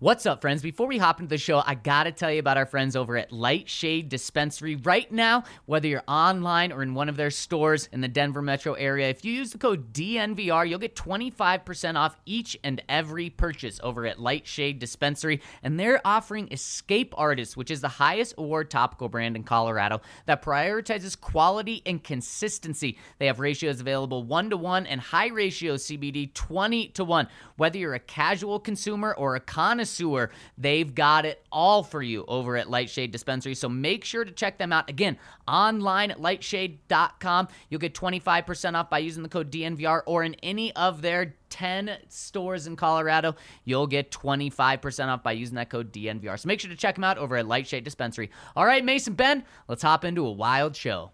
What's up, friends? Before we hop into the show, I gotta tell you about our friends over at Lightshade Dispensary. Right now, whether you're online or in one of their stores in the Denver metro area, if you use the code DNVR, you'll get 25% off each and every purchase over at Lightshade Dispensary. And they're offering Escape Artist, which is the highest award topical brand in Colorado that prioritizes quality and consistency. They have ratios available 1-to-1 and high ratio CBD 20-to-1. Whether you're a casual consumer or a connoisseur, they've got it all for you over at Lightshade Dispensary. So make sure to check them out. Again, online at lightshade.com. You'll get 25% off by using the code DNVR, or in any of their 10 stores in Colorado, you'll get 25% off by using that code DNVR. So make sure to check them out over at Lightshade Dispensary. All right, Mason, Ben, let's hop into a wild show.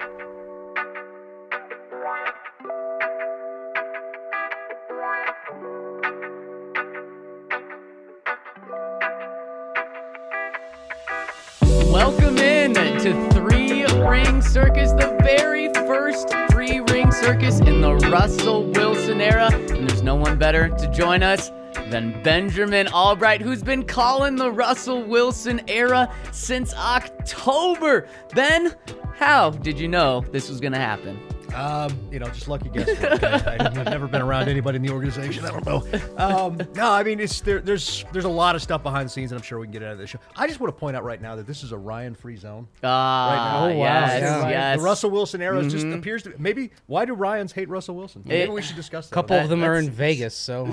Welcome in to Three Ring Circus, the very first Three Ring Circus in the Russell Wilson era. And there's no one better to join us than Benjamin Albright, who's been calling the Russell Wilson era since October. Ben, how did you know this was going to happen? Just lucky guesswork. I've never been around anybody in the organization. I don't know. No, I mean, there's a lot of stuff behind the scenes, and I'm sure we can get out of this show. I just want to point out right now that this is a Ryan-free zone. Right now. Oh, wow. Yes. The Russell Wilson era just appears to maybe. Why do Ryans hate Russell Wilson? Maybe we should discuss that. A couple of them are in Vegas, so.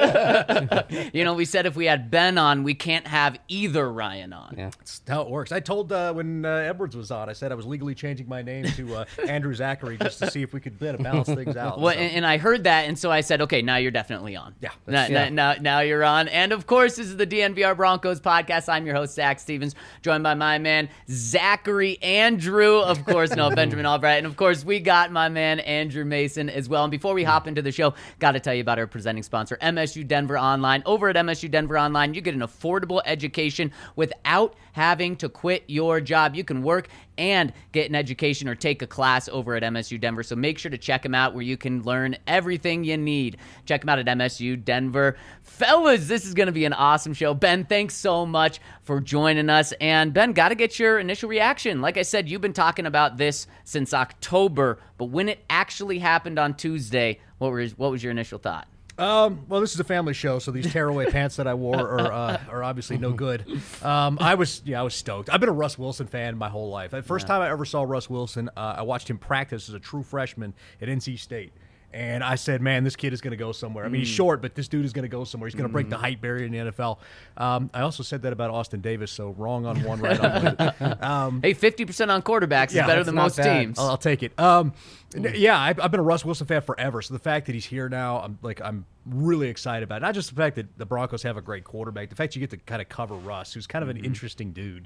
We said if we had Ben on, we can't have either Ryan on. Yeah. That's how it works. I told when Edwards was on, I said I was legally changing my name to Andrew Zachary just to see if we could balance things out. Well, and I heard that, and so I said, okay, now you're definitely on. Yeah. Now you're on. And, of course, this is the DNVR Broncos podcast. I'm your host, Zach Stevens, joined by my man, Zachary Andrew, of course, Benjamin Albright. And, of course, we got my man, Andrew Mason, as well. And before we hop into the show, got to tell you about our presenting sponsor, MSU Denver Online. Over at MSU Denver Online, you get an affordable education without having to quit your job. You can work and get an education or take a class over at MSU Denver. So make sure to check them out where you can learn everything you need. Check them out at MSU Denver. Fellas, this is going to be an awesome show. Ben, thanks so much for joining us. And Ben, got to get your initial reaction. Like I said, you've been talking about this since October, but when it actually happened on Tuesday, what was your initial thought? Well, this is a family show, so these tearaway pants that I wore are obviously no good. I was stoked. I've been a Russ Wilson fan my whole life. The first time I ever saw Russ Wilson, I watched him practice as a true freshman at NC State. And I said, man, this kid is going to go somewhere. I mean, he's short, but this dude is going to go somewhere. He's going to break the height barrier in the NFL. I also said that about Austin Davis, so wrong on one, right on one. Hey, 50% on quarterbacks is better than most teams. I'll take it. I've been a Russ Wilson fan forever, so the fact that he's here now, I'm really excited about it. Not just the fact that the Broncos have a great quarterback, the fact you get to kind of cover Russ, who's kind of an interesting dude.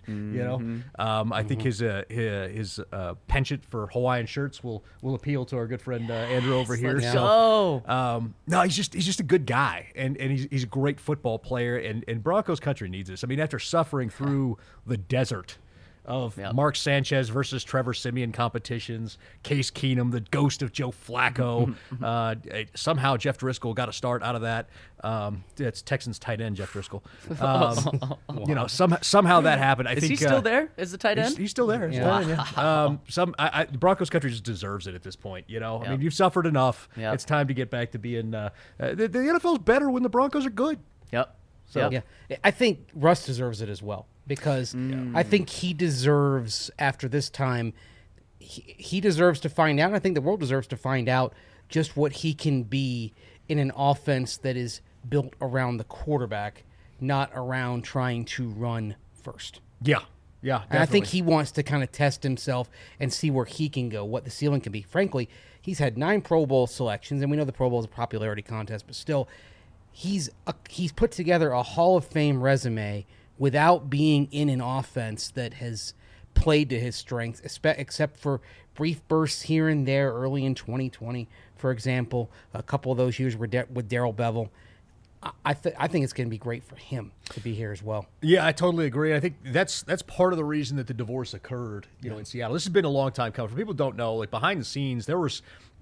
I think his penchant for Hawaiian shirts will appeal to our good friend Andrew over here. So, no, he's just a good guy, and he's a great football player, and Broncos country needs this. I mean, after suffering through the desert of Mark Sanchez versus Trevor Siemian competitions, Case Keenum, the ghost of Joe Flacco. Somehow Jeff Driscoll got a start out of that. It's Texans tight end Jeff Driscoll. Somehow that happened. Is he still there as the tight end? He's still there. The Broncos country just deserves it at this point. I mean, you've suffered enough. Yep. It's time to get back to being. The NFL's better when the Broncos are good. Yep. So Yeah, I think Russ deserves it as well, because I think he deserves, after this time, he deserves to find out. I think the world deserves to find out just what he can be in an offense that is built around the quarterback, not around trying to run first. Yeah, definitely. And I think he wants to kind of test himself and see where he can go, what the ceiling can be. Frankly, he's had 9 Pro Bowl selections, and we know the Pro Bowl is a popularity contest, but still, he's put together a Hall of Fame resume without being in an offense that has played to his strengths, except for brief bursts here and there early in 2020, for example. A couple of those years were with Darrell Bevell. I think it's going to be great for him to be here as well. Yeah, I totally agree. I think that's part of the reason that the divorce occurred, in Seattle. This has been a long time coming. For people who don't know, like behind the scenes, there was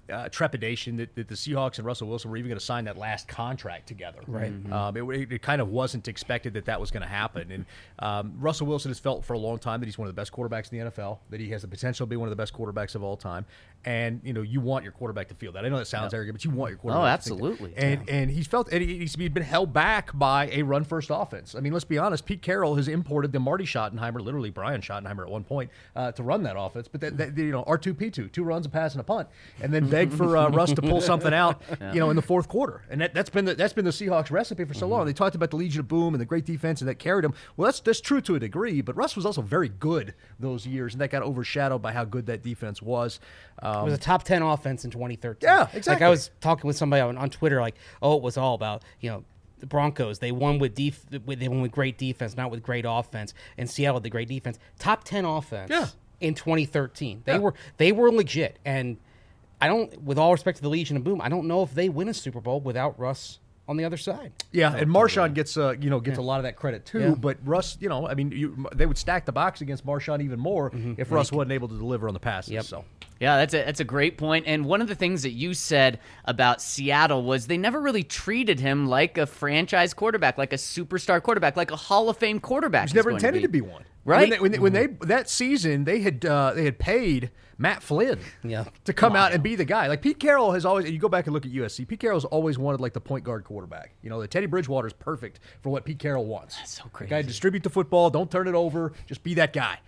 trepidation that the Seahawks and Russell Wilson were even going to sign that last contract together. Right. It kind of wasn't expected that was going to happen. And Russell Wilson has felt for a long time that he's one of the best quarterbacks in the NFL, that he has the potential to be one of the best quarterbacks of all time. And, you want your quarterback to feel that. I know that sounds arrogant, but you want your quarterback to absolutely. think that. And he's felt, and he's been held back by a run-first offense. I mean, let's be honest, Pete Carroll has imported the Marty Schottenheimer, literally Brian Schottenheimer at one point, to run that offense. But R2P2, 2 runs, a pass, and a punt, and then beg for Russ to pull something out, in the fourth quarter. And that's been the Seahawks recipe for so long. They talked about the Legion of Boom and the great defense, and that carried them. Well, that's true to a degree, but Russ was also very good those years, and that got overshadowed by how good that defense was. It was a top 10 offense in 2013. Yeah, exactly. Like I was talking with somebody on Twitter, like, it was all about, the Broncos. They won with great defense, not with great offense. And Seattle, the great defense, top 10 offense in 2013. They were legit. And I don't, with all respect to the Legion of Boom, I don't know if they win a Super Bowl without Russ on the other side. Yeah, and Marshawn gets a lot of that credit too. Yeah. But Russ, they would stack the box against Marshawn even more if Russ wasn't able to deliver on the passes. Yep. So. Yeah, that's a great point. And one of the things that you said about Seattle was they never really treated him like a franchise quarterback, like a superstar quarterback, like a Hall of Fame quarterback. He was never intended to be one. Right. When they that season they had paid Matt Flynn to come out and be the guy. Like Pete Carroll has always, and you go back and look at USC, Pete Carroll's always wanted like the point guard quarterback. The Teddy Bridgewater is perfect for what Pete Carroll wants. That's so crazy. The guy distribute the football, don't turn it over, just be that guy.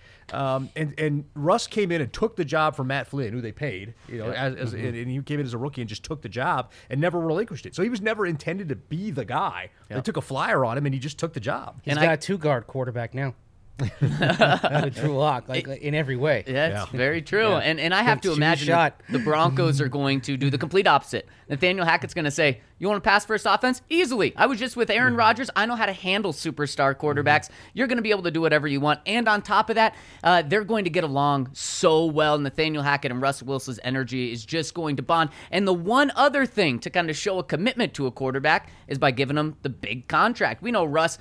And Russ came in and took the job from Matt Flynn, who they paid, and he came in as a rookie and just took the job and never relinquished it. So he was never intended to be the guy. They took a flyer on him and he just took the job. He's got a 2-guard quarterback now. With Drew Lock, in every way. That's very true. Yeah. And I have to imagine the Broncos are going to do the complete opposite. Nathaniel Hackett's going to say, you want to pass first offense? Easily. I was just with Aaron Rodgers. I know how to handle superstar quarterbacks. You're going to be able to do whatever you want. And on top of that, they're going to get along so well. Nathaniel Hackett and Russell Wilson's energy is just going to bond. And the one other thing to kind of show a commitment to a quarterback is by giving him the big contract. We know Russ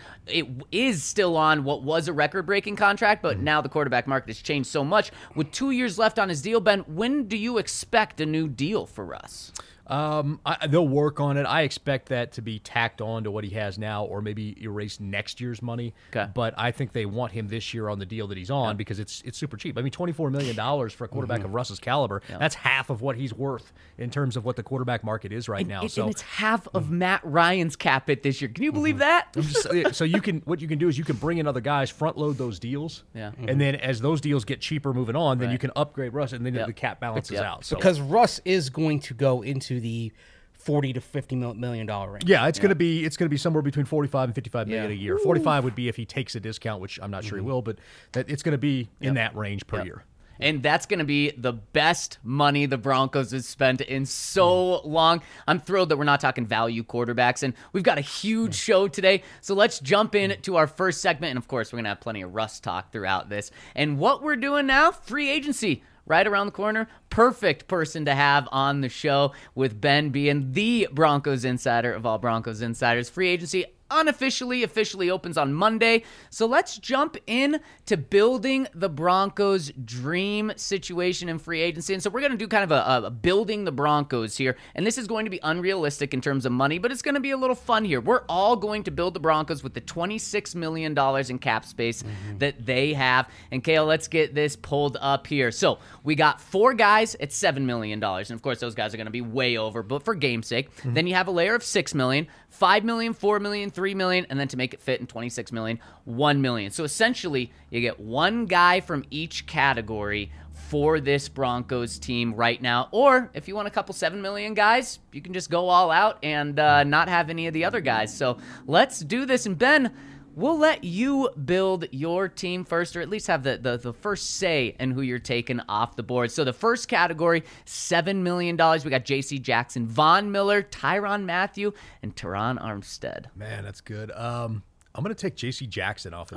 is still on what was a record-breaking contract, but now the quarterback market has changed so much. With 2 years left on his deal, Ben, when do you expect a new deal for Russ? They'll work on it. I expect that to be tacked on to what he has now, or maybe erase next year's money. Okay. But I think they want him this year on the deal that he's on because it's super cheap. I mean, $24 million for a quarterback of Russ's caliber, that's half of what he's worth in terms of what the quarterback market is right now. And it's half of Matt Ryan's cap hit this year. Can you believe that? So what you can do is you can bring in other guys, front load those deals, and then as those deals get cheaper moving on, then you can upgrade Russ, and then the cap balances out. So. Because Russ is going to go into the $40 to $50 million range. Yeah, it's going to be somewhere between 45 and 55 million a year. 45 would be if he takes a discount, which I'm not sure he will, but it's going to be in that range per year. And that's going to be the best money the Broncos have spent in so long. I'm thrilled that we're not talking value quarterbacks. And we've got a huge show today. So let's jump in to our first segment. And, of course, we're going to have plenty of Russ talk throughout this. And what we're doing now, free agency. Right around the corner, perfect person to have on the show with Ben being the Broncos insider of all Broncos insiders. Free agency officially opens on Monday. So let's jump in to building the Broncos' dream situation in free agency. And so we're going to do kind of a building the Broncos here. And this is going to be unrealistic in terms of money, but it's going to be a little fun here. We're all going to build the Broncos with the $26 million in cap space that they have. And Kale, let's get this pulled up here. So we got 4 guys at $7 million. And of course, those guys are going to be way over, but for game's sake. Then you have a layer of $6 million, $5 million, $4 million, $3 million, and then to make it fit in $26 million, $1 million. So essentially, you get one guy from each category for this Broncos team right now. Or if you want a couple $7 million guys, you can just go all out and not have any of the other guys. So let's do this. And Ben, we'll let you build your team first, or at least have the first say in who you're taking off the board. So the first category, $7 million. We got J.C. Jackson, Von Miller, Tyrann Mathieu, and Teron Armstead. Man, that's good. I'm going to take J.C. Jackson off of there.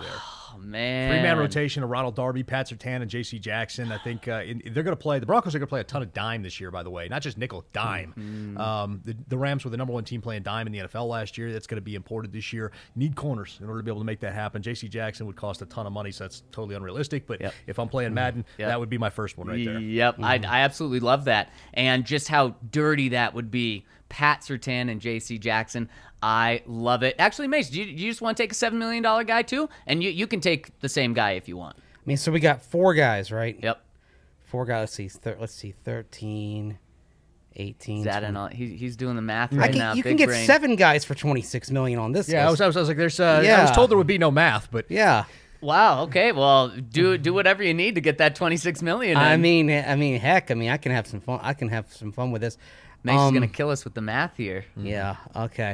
Oh, man. Three-man rotation of Ronald Darby, Pat Surtain, and J.C. Jackson. I think they're going to play. The Broncos are going to play a ton of dime this year, by the way. Not just nickel, dime. The Rams were the number one team playing dime in the NFL last year. That's going to be imported this year. Need corners in order to be able to make that happen. J.C. Jackson would cost a ton of money, so that's totally unrealistic. But if I'm playing Madden, that would be my first one right there. Yep, I absolutely love that. And just how dirty that would be. Pat Surtain and J.C. Jackson. I love it. Actually, Mace, do you just want to take a $7 million guy too? And you can take the same guy if you want. I mean, so we got 4 guys, right? Yep. 4 guys. Let's see, 13, 18. Is that 20. He's doing the math right now. You Big can get brain. 7 guys for $26 million on this. Yeah, list. I was like, there's. I was told there would be no math, but Yeah. Wow. Okay. Well, do whatever you need to get that $26 million. I mean, heck. I mean, I can have some fun. I can have some fun with this. Mace is gonna kill us with the math here. Yeah. Okay.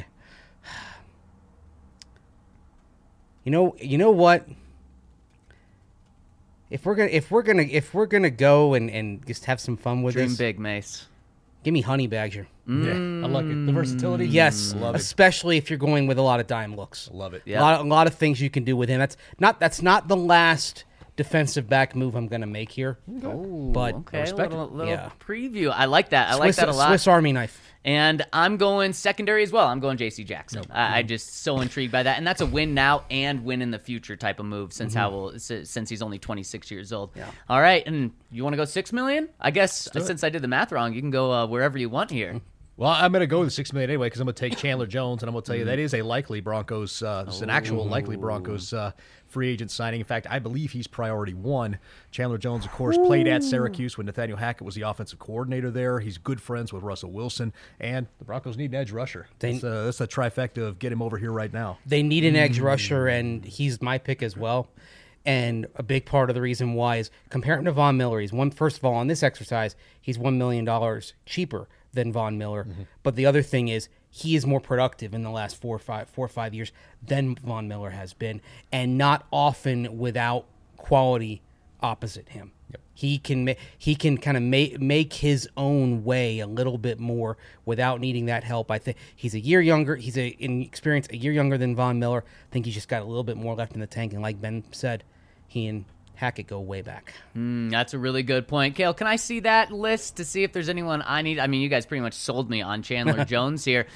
You know what? If we're gonna go and just have some fun with Dream this, big, Mace. give me Honey Badger. yeah, I like it. The versatility. Yes, love it. especially if you're going with a lot of dime looks. Love it. Yeah. A lot of things you can do with him. That's not the last defensive back move I'm gonna make here. Oh, But okay. respect it. Little Yeah. preview. I like that. I like that a lot. Swiss Army knife. And I'm going secondary as well. I'm going J.C. Jackson. I just so intrigued by that, and that's a win now and win in the future type of move. Since since he's only 26 years old. Yeah. All right, and you want to go $6 million? I guess since I did the math wrong, you can go wherever you want here. Well, I'm going to go with $6 million anyway because I'm going to take Chandler Jones, and I'm going to tell you that is a likely Broncos. It's an actual likely Broncos free agent signing. In fact, I believe he's priority 1. Chandler Jones, of course, played at Syracuse when Nathaniel Hackett was the offensive coordinator there. He's good friends with Russell Wilson, and the Broncos need an edge rusher. That's a trifecta of get him over here right now. They need an edge rusher, and he's my pick as well. And a big part of the reason why is compare him to Von Miller. First of all, on this exercise, he's $1 million cheaper than Von Miller. But the other thing is he is more productive in the last 4 or 5 years than Von Miller has been, and not often without quality opposite him. Yep. He can kind of make his own way a little bit more without needing that help. I think he's a year younger. He's in experience a year younger than Von Miller. I think he's just got a little bit more left in the tank. And like Ben said, he and Hackett go way back. That's a really good point. Kale, can I see that list to see if there's anyone I need? I mean, you guys pretty much sold me on Chandler Jones here.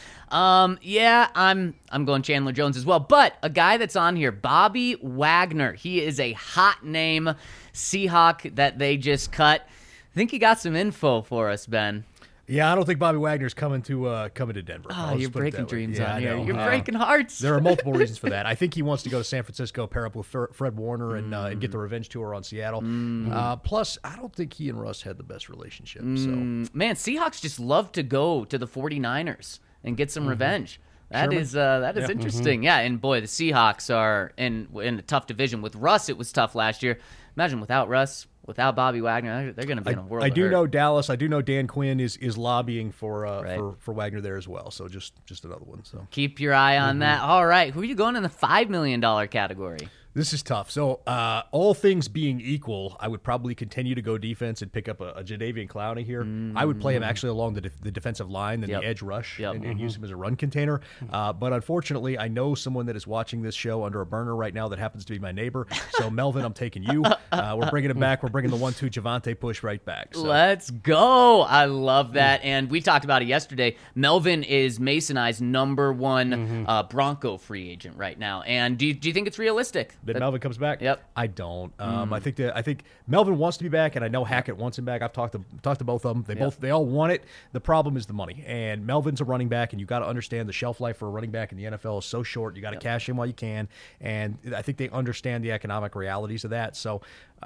Yeah, I'm going Chandler Jones as well. But a guy that's on here, Bobby Wagner. He is a hot name Seahawk that they just cut. I think he got some info for us, Ben. Yeah, I don't think Bobby Wagner's coming to Denver. Oh, I'll you're just put it breaking that way. dreams Yeah, on I here. know. You're breaking hearts. There are multiple reasons for that. I think he wants to go to San Francisco, pair up with Fred Warner, and get the revenge tour on Seattle. Plus, I don't think he and Russ had the best relationship. So Man, Seahawks just love to go to the 49ers and get some revenge. That is interesting. Yeah, and boy, the Seahawks are in a tough division. With Russ, it was tough last year. Imagine without Russ, without Bobby Wagner, they're going to be in a world I of do hurt. know Dallas. I do know Dan Quinn is lobbying for Wagner there as well. So just another one. So Keep your eye on that. All right, who are you going in the $5 million category? this is tough. So all things being equal, I would probably continue to go defense and pick up a Jadeveon Clowney here. I would play him actually along the defensive line than the edge rush and use him as a run container. But unfortunately, I know someone that is watching this show under a burner right now that happens to be my neighbor. So Melvin, I'm taking you. We're bringing him back. We're bringing the 1-2 Javante push right back. So. Let's go. I love that. And we talked about it yesterday. Melvin is Mason I's number one Bronco free agent right now. And do you think it's realistic? That Melvin comes back? Yep. I don't. I think Melvin wants to be back, and I know Hackett wants him back. I've talked to both of them. They all want it. The problem is the money. And Melvin's a running back, and you got to understand the shelf life for a running back in the NFL is so short. You got to cash in while you can, and I think they understand the economic realities of that. So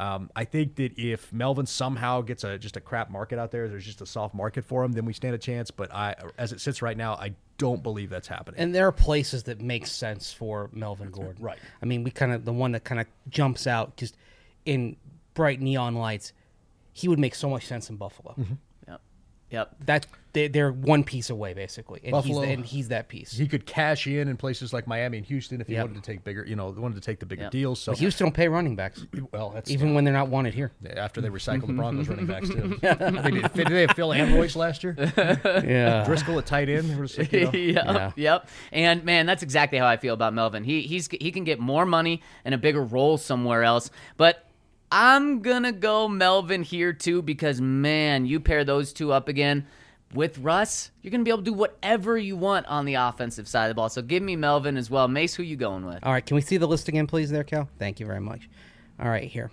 I think that if Melvin somehow gets just a crap market out there, there's just a soft market for him, then we stand a chance. But as it sits right now, I don't believe that's happening. And there are places that make sense for Melvin Gordon. Right. I mean, the one that kind of jumps out just in bright neon lights, he would make so much sense in Buffalo. Yep. Yep. That they're one piece away basically, and Buffalo. he's that piece. He could cash in places like Miami and Houston if he Yep. wanted to take bigger, wanted to take the bigger Yep. deals. So But Houston don't pay running backs, well, that's even when they're not wanted here. after they recycled the Broncos running backs too. Did they have Phil and Royce last year? Yeah. Driscoll at tight end. They were just like, Yep, Yeah. yep. And man, that's exactly how I feel about Melvin. He can get more money and a bigger role somewhere else. But I'm gonna go Melvin here too because man, you pair those two up again with Russ, you're gonna be able to do whatever you want on the offensive side of the ball. So give me Melvin as well. Mace, who you going with? All right, can we see the list again, please, there, Cal? Thank you very much. All right, here.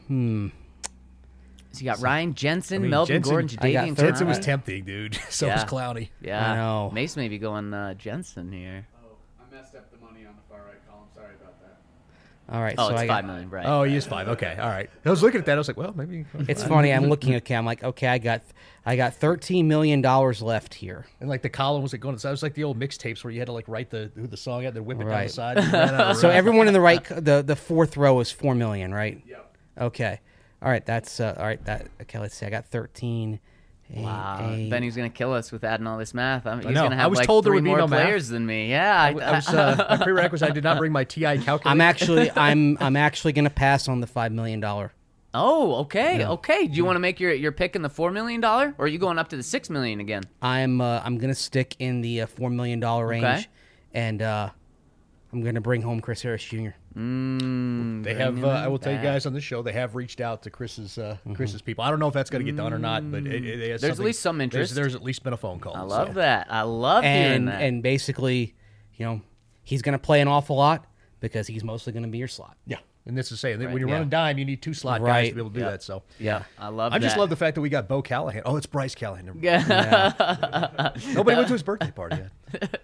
So you got Ryan Jensen, I mean, Melvin Jensen- Gordon, I got Jadavian 13. Jensen was Clowney. tempting, dude. So Yeah. was Clowney. Yeah, I know. Mace may be going Jensen here. Oh, I messed up the money on the far right column. Sorry about that. All right, Oh, so it's I $5 got, million, right? Oh, he is 5. Okay, all right. I was looking at that. I was like, well, maybe. It's funny. I'm looking at Cal. I'm like, okay, I got $13 million left here. And like the column was like going. It was like the old mixtapes where you had to like write who the song had, then whip it down the Right. side. And ran out of So room. everyone in the right, the fourth row is $4 million, right? Yep. Okay. All right, that's all right. Okay, let's see. I got 13. Wow, Benny's gonna kill us with adding all this math. He's know. gonna I have was like told there 3 would be more no math. players than me. Yeah, I was my prerequisite. I did not bring my TI calculator. I'm actually going to pass on the $5 million. Oh, okay, okay. Do you want to make your pick in the $4 million, or are you going up to the $6 million again? I'm going to stick in the $4 million range, Okay. and I'm going to bring home Chris Harris Jr. They have. I will tell you guys on this show. They have reached out to Chris's people. I don't know if that's going to get done or not, but There's at least some interest. There's at least been a phone call. I love that. I love hearing that. And basically, he's going to play an awful lot because he's mostly going to be your slot. Yeah, and this is saying that when you're yeah. running dime, you need 2 slot guys Right. to be able to do that. So Yeah. I love I just that. love the fact that we got Bo Callahan. Oh, it's Bryce Callahan. Never mind. Yeah. Nobody went to his birthday party yet.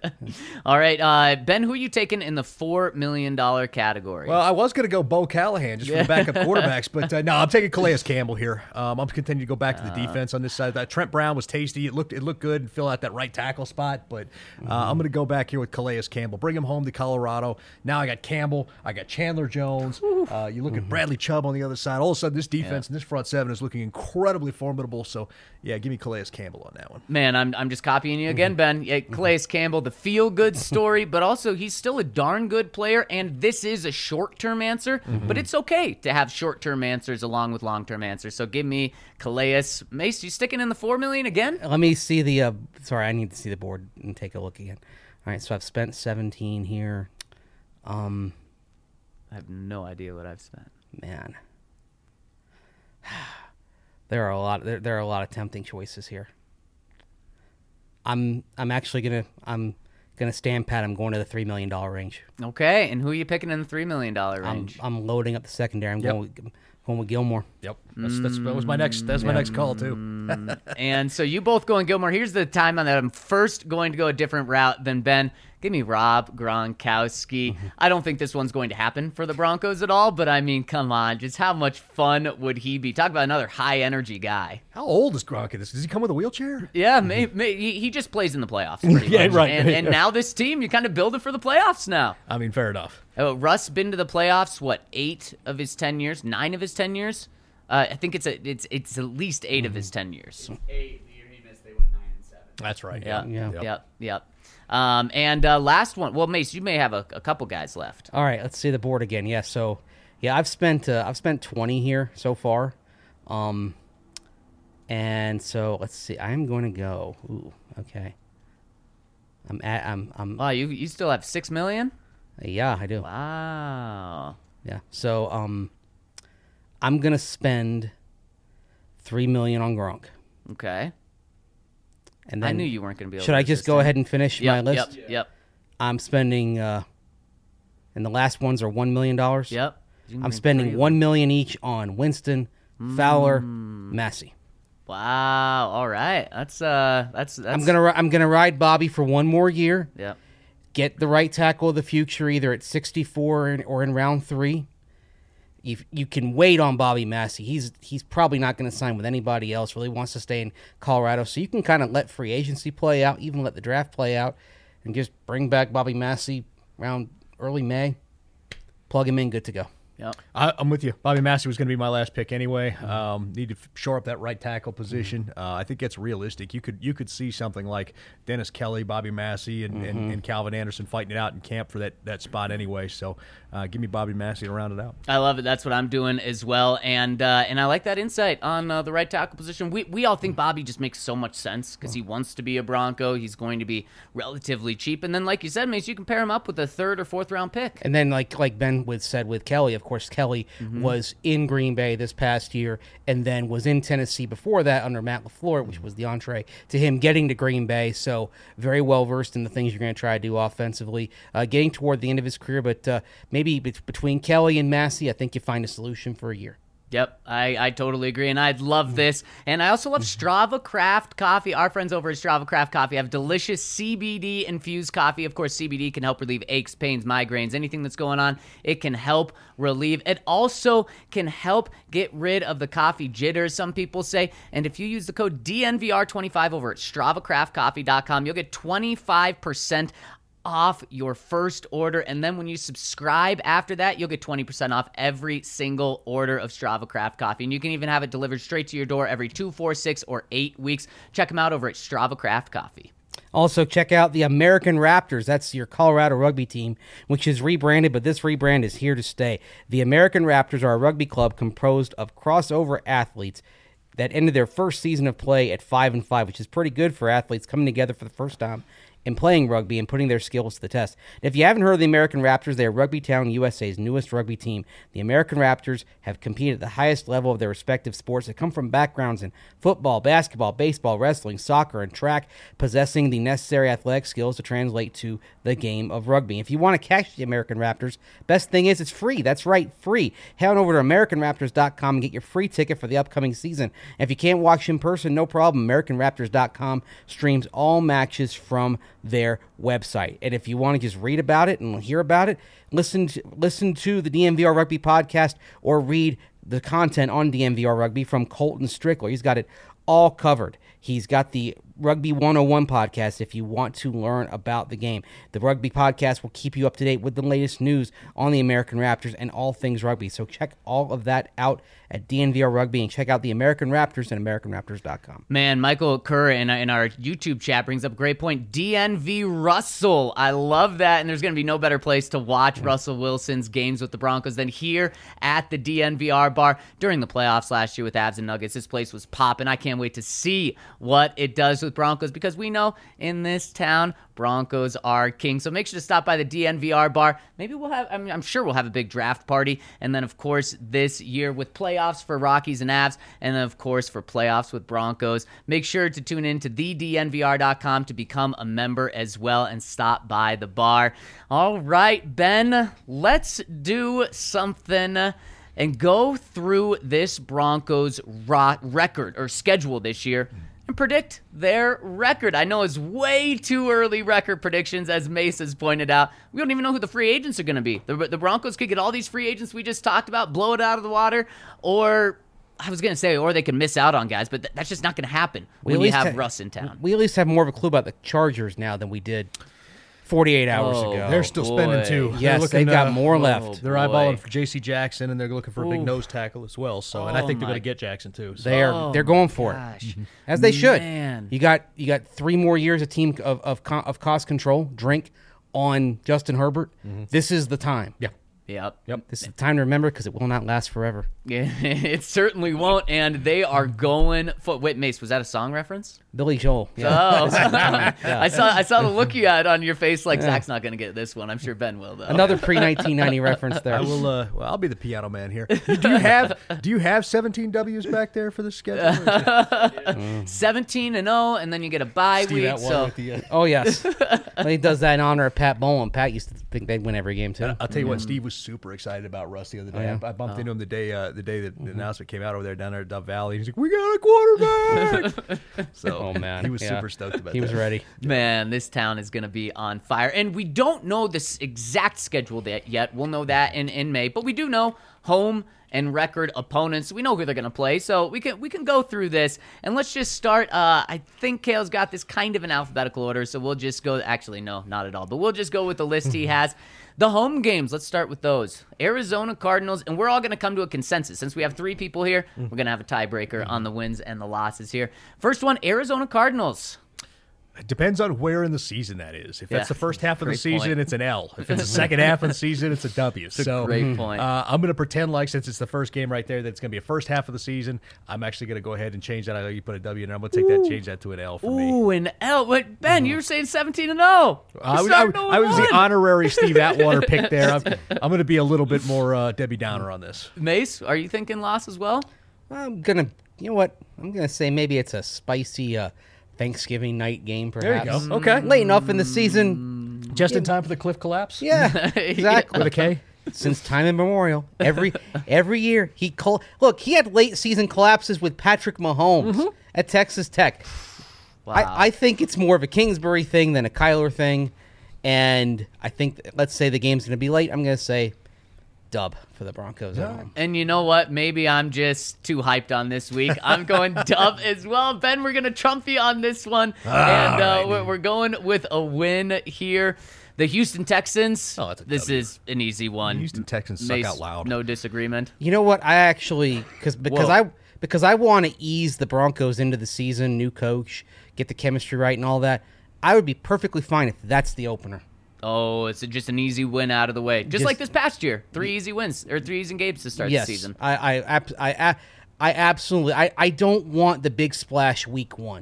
All right, Ben, who are you taking in the $4 million category? Well, I was going to go Bo Callahan just for the backup quarterbacks, but no, I'm taking Calais Campbell here. I'm continuing to go back to the defense on this side. That Trent Brown was tasty. It looked good and fill out that right tackle spot, but I'm going to go back here with Calais Campbell. Bring him home to Colorado. Now I got Campbell. I got Chandler Jones. You look at Bradley Chubb on the other side. All of a sudden, this defense and this front seven is looking incredibly formidable. So, yeah, give me Calais Campbell on that one. Man, I'm just copying you again, Ben. Yeah, Calais Campbell, the feel-good story, but also he's still a darn good player, and this is a short-term answer, but it's okay to have short-term answers along with long-term answers. So give me Calais. Mace, you sticking in the $4 million again? Let me see the. Sorry, I need to see the board and take a look again. All right, so I've spent 17 here. I have no idea what I've spent. Man, there are a lot. There are a lot of tempting choices here. I'm actually gonna stand pat. I'm going to the $3 million range. Okay, and who are you picking in the $3 million range? I'm loading up the secondary. I'm going with Gilmore. Yep, that was my next. That's my next call too. And so you both going Gilmore. Here's the time on that I'm first going to go a different route than Ben. Give me Rob Gronkowski. I don't think this one's going to happen for the Broncos at all, but I mean, come on. Just how much fun would he be? Talk about another high-energy guy. How old is Gronk in this? Does he come with a wheelchair? Yeah, he just plays in the playoffs pretty Yeah, much. right. And now this team, you kind of build it for the playoffs now. I mean, fair enough. Russ been to the playoffs, 8 of his 10 years? 9 of his 10 years? I think it's at least 8 of his 10 years. 8, the year he missed, they went 9-7. That's right. Yeah. Yep. And last one. Well, Mace, you may have a couple guys left. All right, let's see the board again. Yeah, so I've spent 20 here so far, and so let's see. I'm going to go. Ooh, okay. I'm. Wow, you still have $6 million? Yeah, I do. Wow. Yeah. So I'm gonna spend $3 million on Gronk, Okay. and then I knew you weren't going to be able should to I just resist go him. ahead and finish my list? Yep. I'm spending, and the last ones are $1 million. Yep. You can I'm bring spending 3 $1 million each on Winston, Fowler, Massey. Wow. All right. That's I'm gonna ride Bobby for one more year. Yep. Get the right tackle of the future, either at 64 or in round 3. If you can wait on Bobby Massey, he's probably not going to sign with anybody else. Really wants to stay in Colorado, so you can kind of let free agency play out, even let the draft play out, and just bring back Bobby Massey around early May. Plug him in, good to go. Yep. I'm with you. Bobby Massey was going to be my last pick anyway. Need to shore up that right tackle position. I think it's realistic. You could see something like Dennis Kelly, Bobby Massey, and Calvin Anderson fighting it out in camp for that spot anyway. So give me Bobby Massey to round it out. I love it. That's what I'm doing as well. And I like that insight on the right tackle position. We all think Bobby just makes so much sense because he wants to be a Bronco. He's going to be relatively cheap. And then, like you said, Mace, you can pair him up with a 3rd or 4th round pick. And then, like Ben said with Kelly, of course, Kelly was in Green Bay this past year and then was in Tennessee before that under Matt LaFleur, which was the entree to him getting to Green Bay. So very well versed in the things you're going to try to do offensively. Getting toward the end of his career, but maybe between Kelly and Massey, I think you find a solution for a year. Yep, I totally agree, and I love this. And I also love Strava Craft Coffee. Our friends over at Strava Craft Coffee have delicious CBD-infused coffee. Of course, CBD can help relieve aches, pains, migraines, anything that's going on. It can help relieve. It also can help get rid of the coffee jitters, some people say. And if you use the code DNVR25 over at StravaCraftCoffee.com, you'll get 25% off your first order, and then when you subscribe after that, you'll get 20% off every single order of Strava Craft Coffee, and you can even have it delivered straight to your door every 2, 4, 6, or 8 weeks. Check them out over at Strava Craft Coffee. Also, check out the American Raptors. That's your Colorado rugby team, which is rebranded, but this rebrand is here to stay. The American Raptors are a rugby club composed of crossover athletes that ended their first season of play at 5-5, which is pretty good for athletes coming together for the first time in playing rugby and putting their skills to the test. And if you haven't heard of the American Raptors, they are Rugby Town USA's newest rugby team. The American Raptors have competed at the highest level of their respective sports. They come from backgrounds in football, basketball, baseball, wrestling, soccer, and track, possessing the necessary athletic skills to translate to the game of rugby. If you want to catch the American Raptors, best thing is it's free. That's right, free. Head on over to AmericanRaptors.com and get your free ticket for the upcoming season. And if you can't watch in person, no problem. AmericanRaptors.com streams all matches from their website. And if you want to just read about it and hear about it, listen to the DNVR Rugby podcast or read the content on DNVR Rugby from Colton Strickler. He's got it all covered. He's got the Rugby 101 podcast if you want to learn about the game. The Rugby podcast will keep you up to date with the latest news on the American Raptors and all things rugby. So check all of that out at DNVR Rugby and check out the American Raptors at AmericanRaptors.com. Man, Michael Kerr in our YouTube chat brings up a great point. DNV Russell. I love that. And there's going to be no better place to watch Russell Wilson's games with the Broncos than here at the DNVR bar. During the playoffs last year with Avs and Nuggets, this place was popping. I can't wait to see what it does with Broncos because we know in this town, Broncos are king. So make sure to stop by the DNVR bar. Maybe we'll have, I'm sure we'll have a big draft party. And then, of course, this year with playoffs for Rockies and Avs. And then, of course, for playoffs with Broncos. Make sure to tune in to thednvr.com to become a member as well and stop by the bar. All right, Ben, let's do something and go through this Broncos record or schedule this year and predict their record. I know it's way too early record predictions, as Mace has pointed out. We don't even know who the free agents are going to be. The Broncos could get all these free agents we just talked about, blow it out of the water, or I was going to say, or they could miss out on guys, but that's just not going to happen when you have Russ in town. We at least have more of a clue about the Chargers now than we did 48 hours ago. They're still spending too. Yes, they've got more left. They're eyeballing for J.C. Jackson, and they're looking for a big nose tackle as well. So, and I think they're going to get Jackson too. So. They're going for it, as they should. Man. You got 3 more years of cost control. Drink on Justin Herbert. This is the time. Yep. This is the time to remember because it will not last forever. Yeah, it certainly won't, and they are going for... Wait, Mace, was that a song reference? Billy Joel. Oh. I saw the look you had on your face like Zach's not going to get this one. I'm sure Ben will, though. Another pre-1990 reference there. I will. Well, I'll be the piano man here. Do you have 17 W's back there for the schedule? 17-0, and then you get a bye week. So oh yes, he does that in honor of Pat Bowlen. Pat used to think they'd win every game too. I'll tell you what, Steve was super excited about Russ the other day. I bumped into him the day that the announcement came out over there down there at Dove Valley. He's like, "We got a quarterback!" So, oh man, he was super stoked about that. He was ready. Man, this town is going to be on fire, and we don't know this exact schedule yet. We'll know that in May, but we do know home and record opponents. We know who they're going to play, so we can go through this, and let's just start. I think Kale's got this kind of in alphabetical order, so we'll just go. Actually, no, not at all, but we'll just go with the list he has. The home games, let's start with those. Arizona Cardinals, and we're all going to come to a consensus. Since we have 3 people here, we're going to have a tiebreaker on the wins and the losses here. First one, Arizona Cardinals. It depends on where in the season that is. If that's the first half of the Great season, point. it's an L. If it's the second half of the season, it's a W. a great point. I'm going to pretend like, since it's the first game right there, that it's going to be a first half of the season. I'm actually going to go ahead and change that. I know you put a W in there. I'm going to take that, change that to an L for me. Ooh, an L. Wait, Ben, you were saying 17-0. I was the honorary Steve Atwater pick there. I'm going to be a little bit more Debbie Downer on this. Mace, are you thinking loss as well? I'm gonna, you know what? I'm gonna say maybe it's a spicy Thanksgiving night game, There perhaps. you go. Okay. Late enough in the season. Just in time for the cliff collapse? Yeah, exactly. With a K? Since time immemorial, every year look. He had late season collapses with Patrick Mahomes at Texas Tech. Wow. I think it's more of a Kingsbury thing than a Kyler thing, and I think let's say the game's going to be late. I'm going to say dub for the Broncos at home. And you know what? Maybe I'm just too hyped on this week. I'm going dub as well. Ben, we're going to trump you on this one. We're going with a win here. The Houston Texans. Oh, that's a this W. is an easy one. Houston Texans suck Mace, out loud. No disagreement. You know what? I actually Whoa. because I want to ease the Broncos into the season, new coach, get the chemistry right, and all that. I would be perfectly fine if that's the opener. Oh, it's just an easy win out of the way. Just like this past year. 3 easy wins, or 3 easy games to start the season. I absolutely. I don't want the big splash week 1.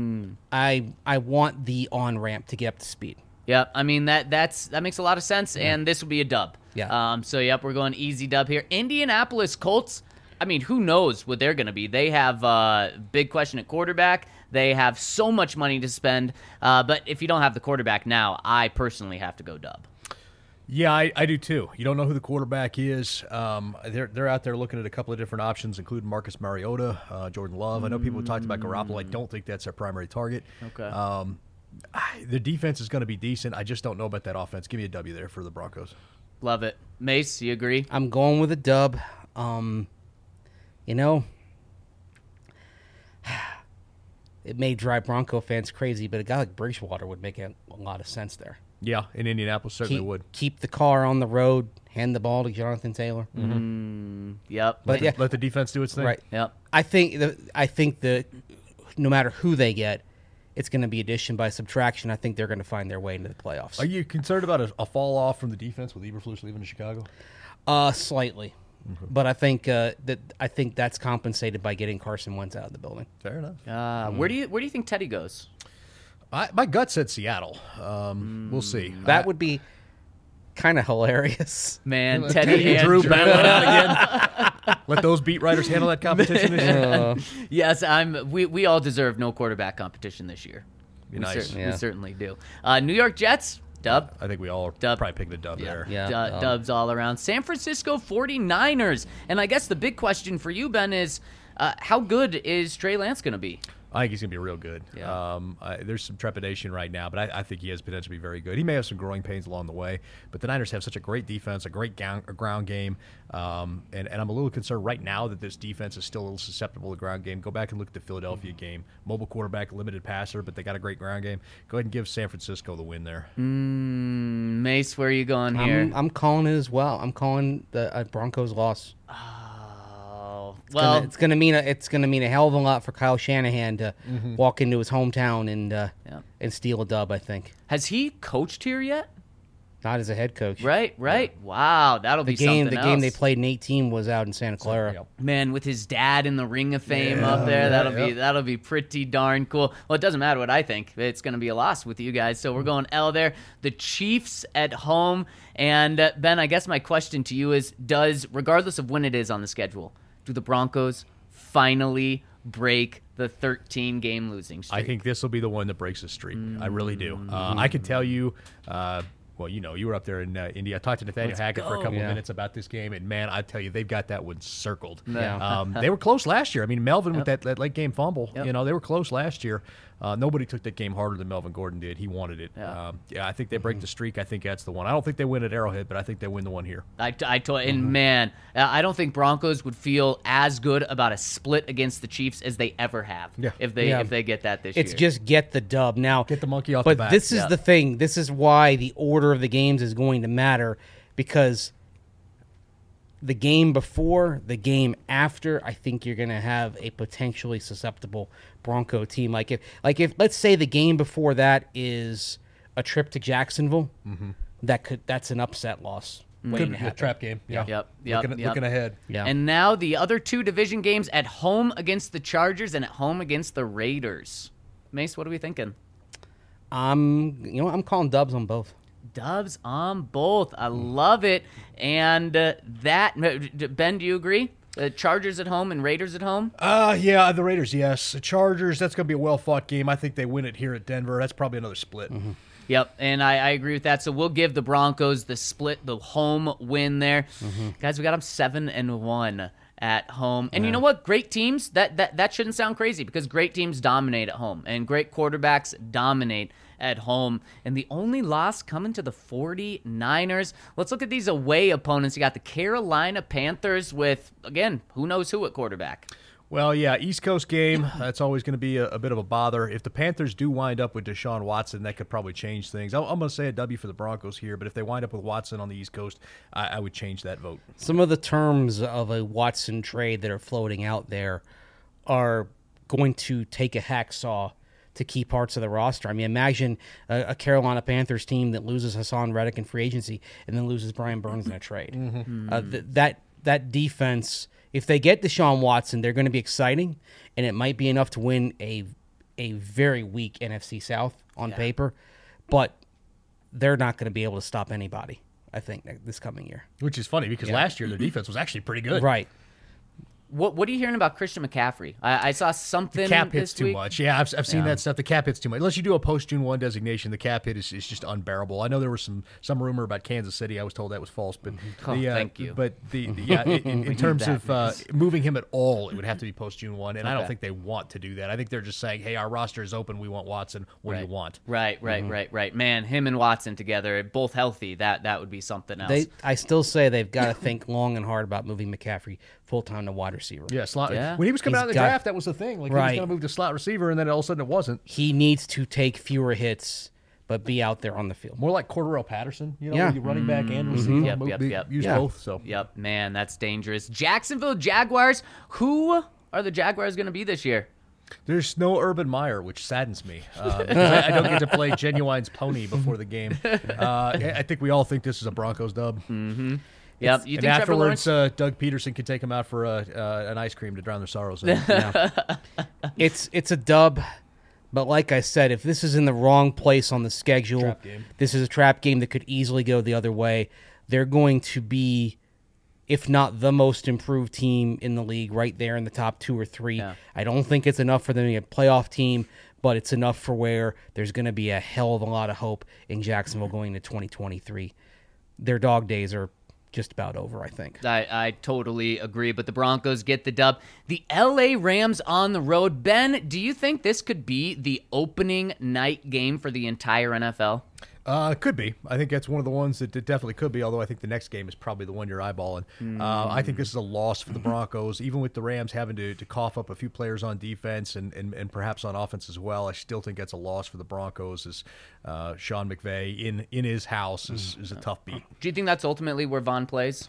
I want the on ramp to get up to speed. Yeah, I mean that makes a lot of sense, and this will be a dub. Yeah. So yep, we're going easy dub here. Indianapolis Colts. I mean, who knows what they're going to be? They have big question at quarterback. They have so much money to spend, but if you don't have the quarterback now, I personally have to go dub. Yeah, I do too. You don't know who the quarterback is. They're out there looking at a couple of different options, including Marcus Mariota, Jordan Love. I know people have talked about Garoppolo. I don't think that's their primary target. Okay. The defense is going to be decent. I just don't know about that offense. Give me a W there for the Broncos. Love it. Mace, you agree? I'm going with a dub. You know, it may drive Bronco fans crazy, but a guy like Bridgewater would make a lot of sense there. Yeah, in Indianapolis certainly would. Keep the car on the road, hand the ball to Jonathan Taylor. Yep. But yeah, Let the defense do its thing. right. Yep. I think the no matter who they get, it's going to be addition by subtraction. I think they're going to find their way into the playoffs. Are you concerned about a fall off from the defense with Eberflus leaving to Chicago? Slightly, but I think that's compensated by getting Carson Wentz out of the building. Fair enough. Where do you think Teddy goes? My gut said Seattle. We'll see. That would be kind of hilarious. Man, Teddy and Drew battling out again. Let those beat writers handle that competition this year. Yes, we all deserve no quarterback competition this year. Be nice. We certainly do. New York Jets, dub. I think we all Dub. probably picked the dub there. Yeah. Dubs all around. San Francisco 49ers. And I guess the big question for you, Ben, is how good is Trey Lance going to be? I think he's going to be real good. Yeah. There's some trepidation right now, but I think he has potential to be very good. He may have some growing pains along the way, but the Niners have such a great defense, a great ground game, and I'm a little concerned right now that this defense is still a little susceptible to ground game. Go back and look at the Philadelphia game. Mobile quarterback, limited passer, but they got a great ground game. Go ahead and give San Francisco the win there. Mace, where are you going here? I'm calling it as well. I'm calling the Broncos loss. Oh, well, It's gonna mean a hell of a lot for Kyle Shanahan to walk into his hometown and steal a dub. I think has he coached here yet? not as a head coach. Right. Wow, that'll be something The else. game they played in 18 was out in Santa Clara. Yep. Man, with his dad in the Ring of Fame up there, that'll be pretty darn cool. Well, it doesn't matter what I think. It's going to be a loss with you guys. So we're going L there. The Chiefs at home. And Ben, I guess my question to you is, regardless of when it is on the schedule, do the Broncos finally break the 13-game losing streak? I think this will be the one that breaks the streak. I really do. I can tell you, well, you were up there in India. I talked to Nathaniel Hackett for a couple of minutes about this game, and man, I tell you, they've got that one circled. Yeah. They were close last year. I mean, Melvin with that late game fumble, Yep. they were close last year. Nobody took that game harder than Melvin Gordon did. He wanted it. Yeah. I think they break the streak. I think that's the one. I don't think they win at Arrowhead, but I think they win the one here. And man, I don't think Broncos would feel as good about a split against the Chiefs as they ever have if they get that this year. It's just get the dub. Now, Get the monkey off the but back. this is the thing. This is why the order of the games is going to matter, because the game before, the game after, I think you're going to have a potentially susceptible Bronco team. Like if let's say the game before that is a trip to Jacksonville, that's an upset loss. Could be a trap game. Yeah. Yep. Looking ahead. Yeah. And now the other two division games at home against the Chargers and at home against the Raiders. Mace, what are we thinking? I'm calling dubs on both. Dubs on both. I love it. And Ben, do you agree? Chargers at home and Raiders at home? Yeah, the Raiders, yes. The Chargers, that's going to be a well-fought game. I think they win it here at Denver. That's probably another split. Yep, and I agree with that. So we'll give the Broncos the split, the home win there. Guys, we got them 7-1 at home. And you know what? Great teams, that shouldn't sound crazy, because great teams dominate at home and great quarterbacks dominate at home. And the only loss coming to the 49ers. Let's look at these away opponents. You got the Carolina Panthers with, again, who knows who at quarterback. Well, yeah, East Coast game, that's always going to be a bit of a bother. If the Panthers do wind up with Deshaun Watson, that could probably change things. I'm going to say a W for the Broncos here, but if they wind up with Watson on the East Coast, I would change that vote. Some of the terms of a Watson trade that are floating out there are going to take a hacksaw to key parts of the roster. I mean, imagine a Carolina Panthers team that loses Hassan Reddick in free agency and then loses Brian Burns in a trade. That defense, if they get Deshaun Watson, they're going to be exciting, and it might be enough to win a very weak NFC South on paper, but they're not going to be able to stop anybody, I think, this coming year. Which is funny, because last year their defense was actually pretty good. Right. What are you hearing about Christian McCaffrey? I saw something. The cap hits this too week. much. Yeah, I've seen that stuff. The cap hits too much. Unless you do a post-June 1 designation, the cap hit is just unbearable. I know there was some rumor about Kansas City. I was told that was false, but thank you. But in terms of moving him at all, it would have to be post-June 1, and I don't think they want to do that. I think they're just saying, hey, our roster is open. We want Watson. What do you want? Right. Man, him and Watson together, both healthy, that would be something else. I still say they've got to think long and hard about moving McCaffrey full-time to wide receiver. Yeah, slot. Yeah. When he was coming out of the got- draft, that was the thing. Like, he was going to move to slot receiver, and then all of a sudden it wasn't. He needs to take fewer hits, but be out there on the field. More like Cordarrelle Patterson, Yeah. running back and receiver. Yep. Use Yeah. both. So Yep, man, that's dangerous. Jacksonville Jaguars. Who are the Jaguars going to be this year? there's no Urban Meyer, which saddens me. Because I don't get to play Genuine's pony before the game. I think we all think this is a Broncos dub. Yep. You And think Trevor afterwards, Lawrence? Doug Peterson can take them out for an ice cream to drown their sorrows in. It's a dub, but like I said, if this is in the wrong place on the schedule, Trap game. this is a trap game that could easily go the other way. They're going to be, if not the most improved team in the league, right there in the top 2 or 3. Yeah. I don't think it's enough for them to be a playoff team, but it's enough for where there's going to be a hell of a lot of hope in Jacksonville going into 2023. Their dog days are just about over, I think. I totally agree, but the Broncos get the dub. The LA Rams on the road. Ben, do you think this could be the opening night game for the entire NFL? Could be. I think that's one of the ones that it definitely could be, although I think the next game is probably the one you're eyeballing. I think this is a loss for the Broncos, even with the Rams having to cough up a few players on defense and perhaps on offense as well. I still think that's a loss for the Broncos, as Sean McVay in his house is a tough beat. Do you think that's ultimately where Von plays?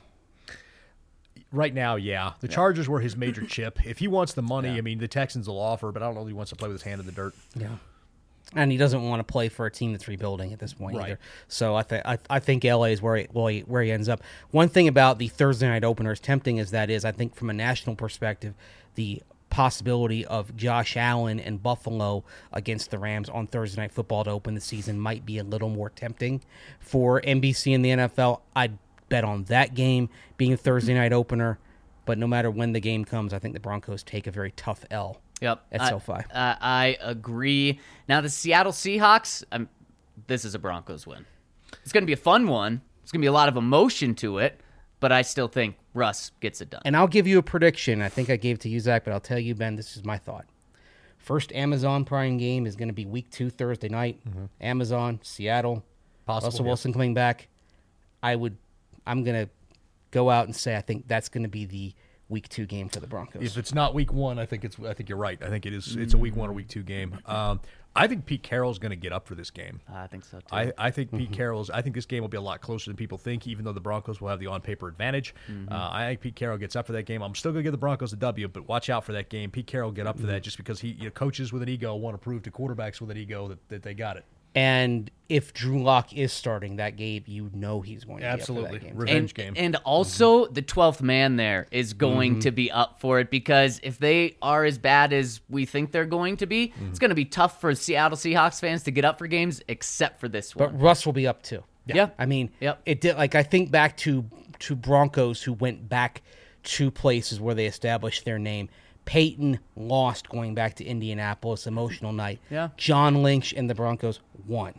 Right now, yeah. The Chargers were his major chip. If he wants the money, I mean, the Texans will offer, but I don't know if he wants to play with his hand in the dirt. Yeah. And he doesn't want to play for a team that's rebuilding at this point Right. either. So I think LA is where he ends up. One thing about the Thursday night opener, as tempting as that is, I think from a national perspective, the possibility of Josh Allen and Buffalo against the Rams on Thursday Night Football to open the season might be a little more tempting for NBC and the NFL. I'd bet on that game being a Thursday night opener, but no matter when the game comes, I think the Broncos take a very tough L. Yep. At SoFi. I agree. Now, the Seattle Seahawks, this is a Broncos win. It's going to be a fun one. It's going to be a lot of emotion to it, but I still think Russ gets it done. And I'll give you a prediction. I think I gave it to you, Zach, but I'll tell you, Ben, this is my thought. First Amazon Prime game is going to be week 2, Thursday night. Amazon, Seattle. Possible, Russell yeah. Wilson coming back. I'm going to go out and say I think that's going to be the Week 2 game for the Broncos. If it's not Week 1, I think you're right. I think it is. It's a Week 1 or Week 2 game. I think Pete Carroll's going to get up for this game. I think so too. I think Pete Carroll's. I think this game will be a lot closer than people think, even though the Broncos will have the on-paper advantage. I think Pete Carroll gets up for that game. I'm still going to give the Broncos a W, but watch out for that game. Pete Carroll will get up for that just because coaches with an ego want to prove to quarterbacks with an ego that they got it. And if Drew Lock is starting that game, he's going to Absolutely. be up for that game. Revenge game. And also the 12th man there is going to be up for it, because if they are as bad as we think they're going to be, it's going to be tough for Seattle Seahawks fans to get up for games, except for this one. But Russ will be up too. Yeah. I mean, Yep. it did. Like I think back to Broncos who went back to places where they established their name. Peyton lost going back to Indianapolis, emotional night. Yeah. John Lynch and the Broncos won.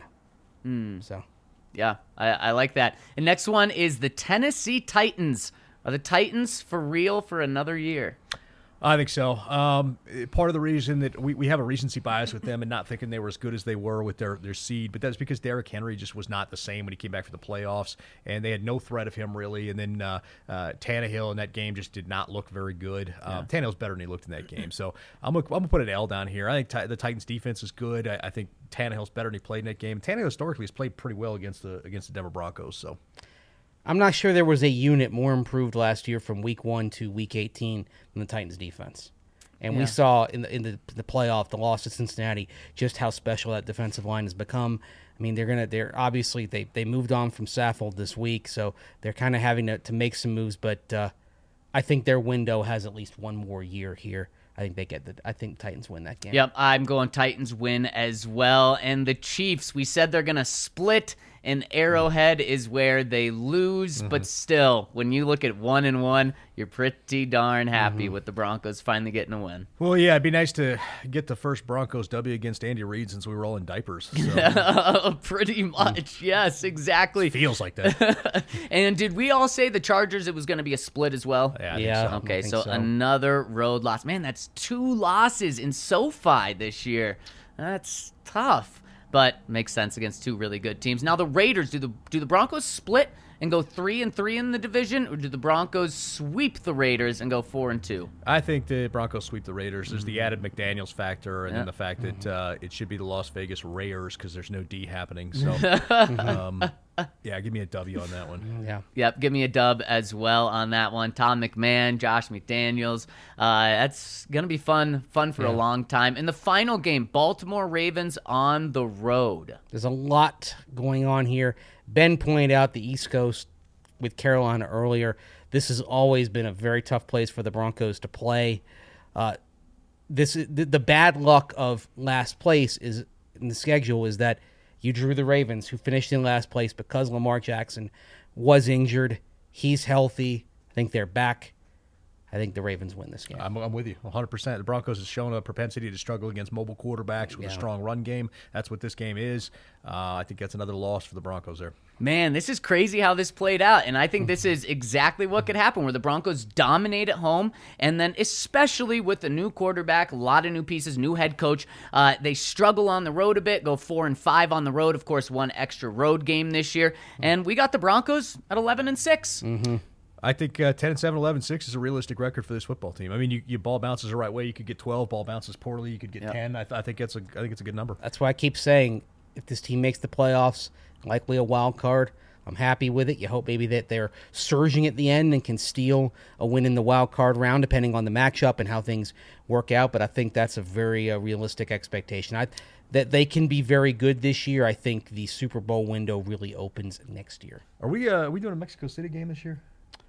So Yeah, I like that. And next one is the Tennessee Titans. Are the Titans for real for another year? I think so. Part of the reason that we have a recency bias with them and not thinking they were as good as they were with their seed, but that's because Derrick Henry just was not the same when he came back for the playoffs, and they had no threat of him really. And then Tannehill in that game just did not look very good. Tannehill's better than he looked in that game, so I'm gonna put an L down here. I think the Titans defense is good. I think Tannehill's better than he played in that game. Tannehill historically has played pretty well against the Denver Broncos. So I'm not sure there was a unit more improved last year from Week 1 to Week 18 than the Titans defense. And we saw in the playoff, the loss to Cincinnati, just how special that defensive line has become. I mean, they're obviously they moved on from Saffold this week, so they're kind of having to make some moves. But I think their window has at least one more year here. I think Titans win that game. Yep, I'm going Titans win as well. And the Chiefs, we said they're going to split, and Arrowhead is where they lose. But still, when you look at 1-1, you're pretty darn happy with the Broncos finally getting a win. well, yeah, it'd be nice to get the first Broncos W against Andy Reid since we were all in diapers. So. Pretty much, yes, exactly. Feels like that. And did we all say the Chargers, it was going to be a split as well? Yeah, I think Yeah. so. Okay, I think so so. another road loss. Man, that's 2 losses in SoFi this year. That's tough, but makes sense against 2 really good teams. Now the Raiders, do the Broncos split and go 3-3 in the division, or do the Broncos sweep the Raiders and go 4-2? I think the Broncos sweep the Raiders. There's the added McDaniels factor, and then Yeah. the fact that it should be the Las Vegas Raiders because there's no D happening. So, yeah, give me a W on that one. Yeah. Yep, give me a dub as well on that one. Tom McMahon, Josh McDaniels. That's going to be fun for a long time. In the final game, Baltimore Ravens on the road. There's a lot going on here. Ben pointed out the East Coast with Carolina earlier. This has always been a very tough place for the Broncos to play. This is the bad luck of last place is in the schedule is that you drew the Ravens, who finished in last place because Lamar Jackson was injured. He's healthy. I think they're back. I think the Ravens win this game. I'm with you 100%. The Broncos has shown a propensity to struggle against mobile quarterbacks with a strong run game. That's what this game is. I think that's another loss for the Broncos there. Man, this is crazy how this played out, and I think this is exactly what could happen, where the Broncos dominate at home, and then especially with a new quarterback, a lot of new pieces, new head coach, they struggle on the road a bit, go 4-5 on the road, of course, 1 extra road game this year, and we got the Broncos at 11-6. I think 10-7, 11-6 is a realistic record for this football team. I mean, you ball bounces the right way, you could get 12. Ball bounces poorly, you could get 10. I think it's a good number. That's why I keep saying if this team makes the playoffs, likely a wild card, I'm happy with it. You hope maybe that they're surging at the end and can steal a win in the wild card round, depending on the matchup and how things work out. But I think that's a very realistic expectation. That they can be very good this year. I think the Super Bowl window really opens next year. Are we doing a Mexico City game this year?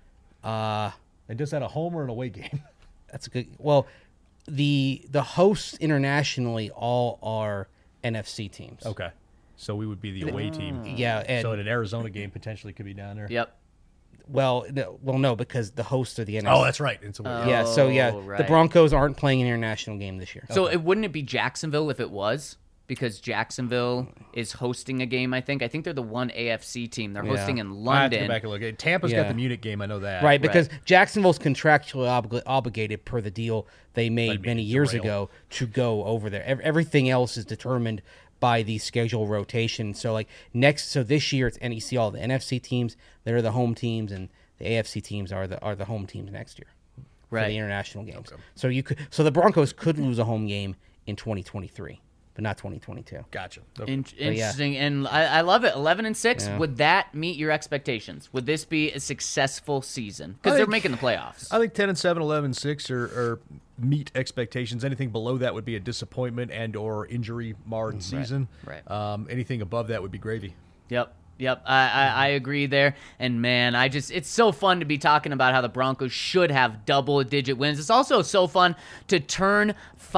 And does that a home or an away game? That's a good. Well, the hosts internationally all are NFC teams. Okay. So we would be the away team. Yeah, and So an Arizona game potentially could be down there. Yep. no, because the hosts are the NFC. Oh, that's right. It's away. Yeah, so yeah, Oh, the right. Broncos aren't playing an international game this year. So it wouldn't it be Jacksonville if it was? Because Jacksonville is hosting a game, I think. I think they're the one AFC team. They're hosting in I have to go London. back and look. Tampa's Yeah. got the Munich game. I know that. Right, because Jacksonville's contractually obligated per the deal they made many years derail. ago to go over there. Everything else is determined by the schedule rotation. So this year it's NEC, all the NFC teams, they're the home teams, and The AFC teams are the home teams next year for Right. the international games. So the Broncos could lose a home game in 2023, but not 2022. Gotcha. Interesting, and I love it. 11-6. Yeah. Would that meet your expectations? Would this be a successful season? Because I they're think- making the playoffs. I think 10-7, 11-6 are meet expectations. Anything below that would be a disappointment and or injury marred season. Right. Anything above that would be gravy. Yep, I agree there. And man, it's so fun to be talking about how the Broncos should have double-digit wins. It's also so fun to turn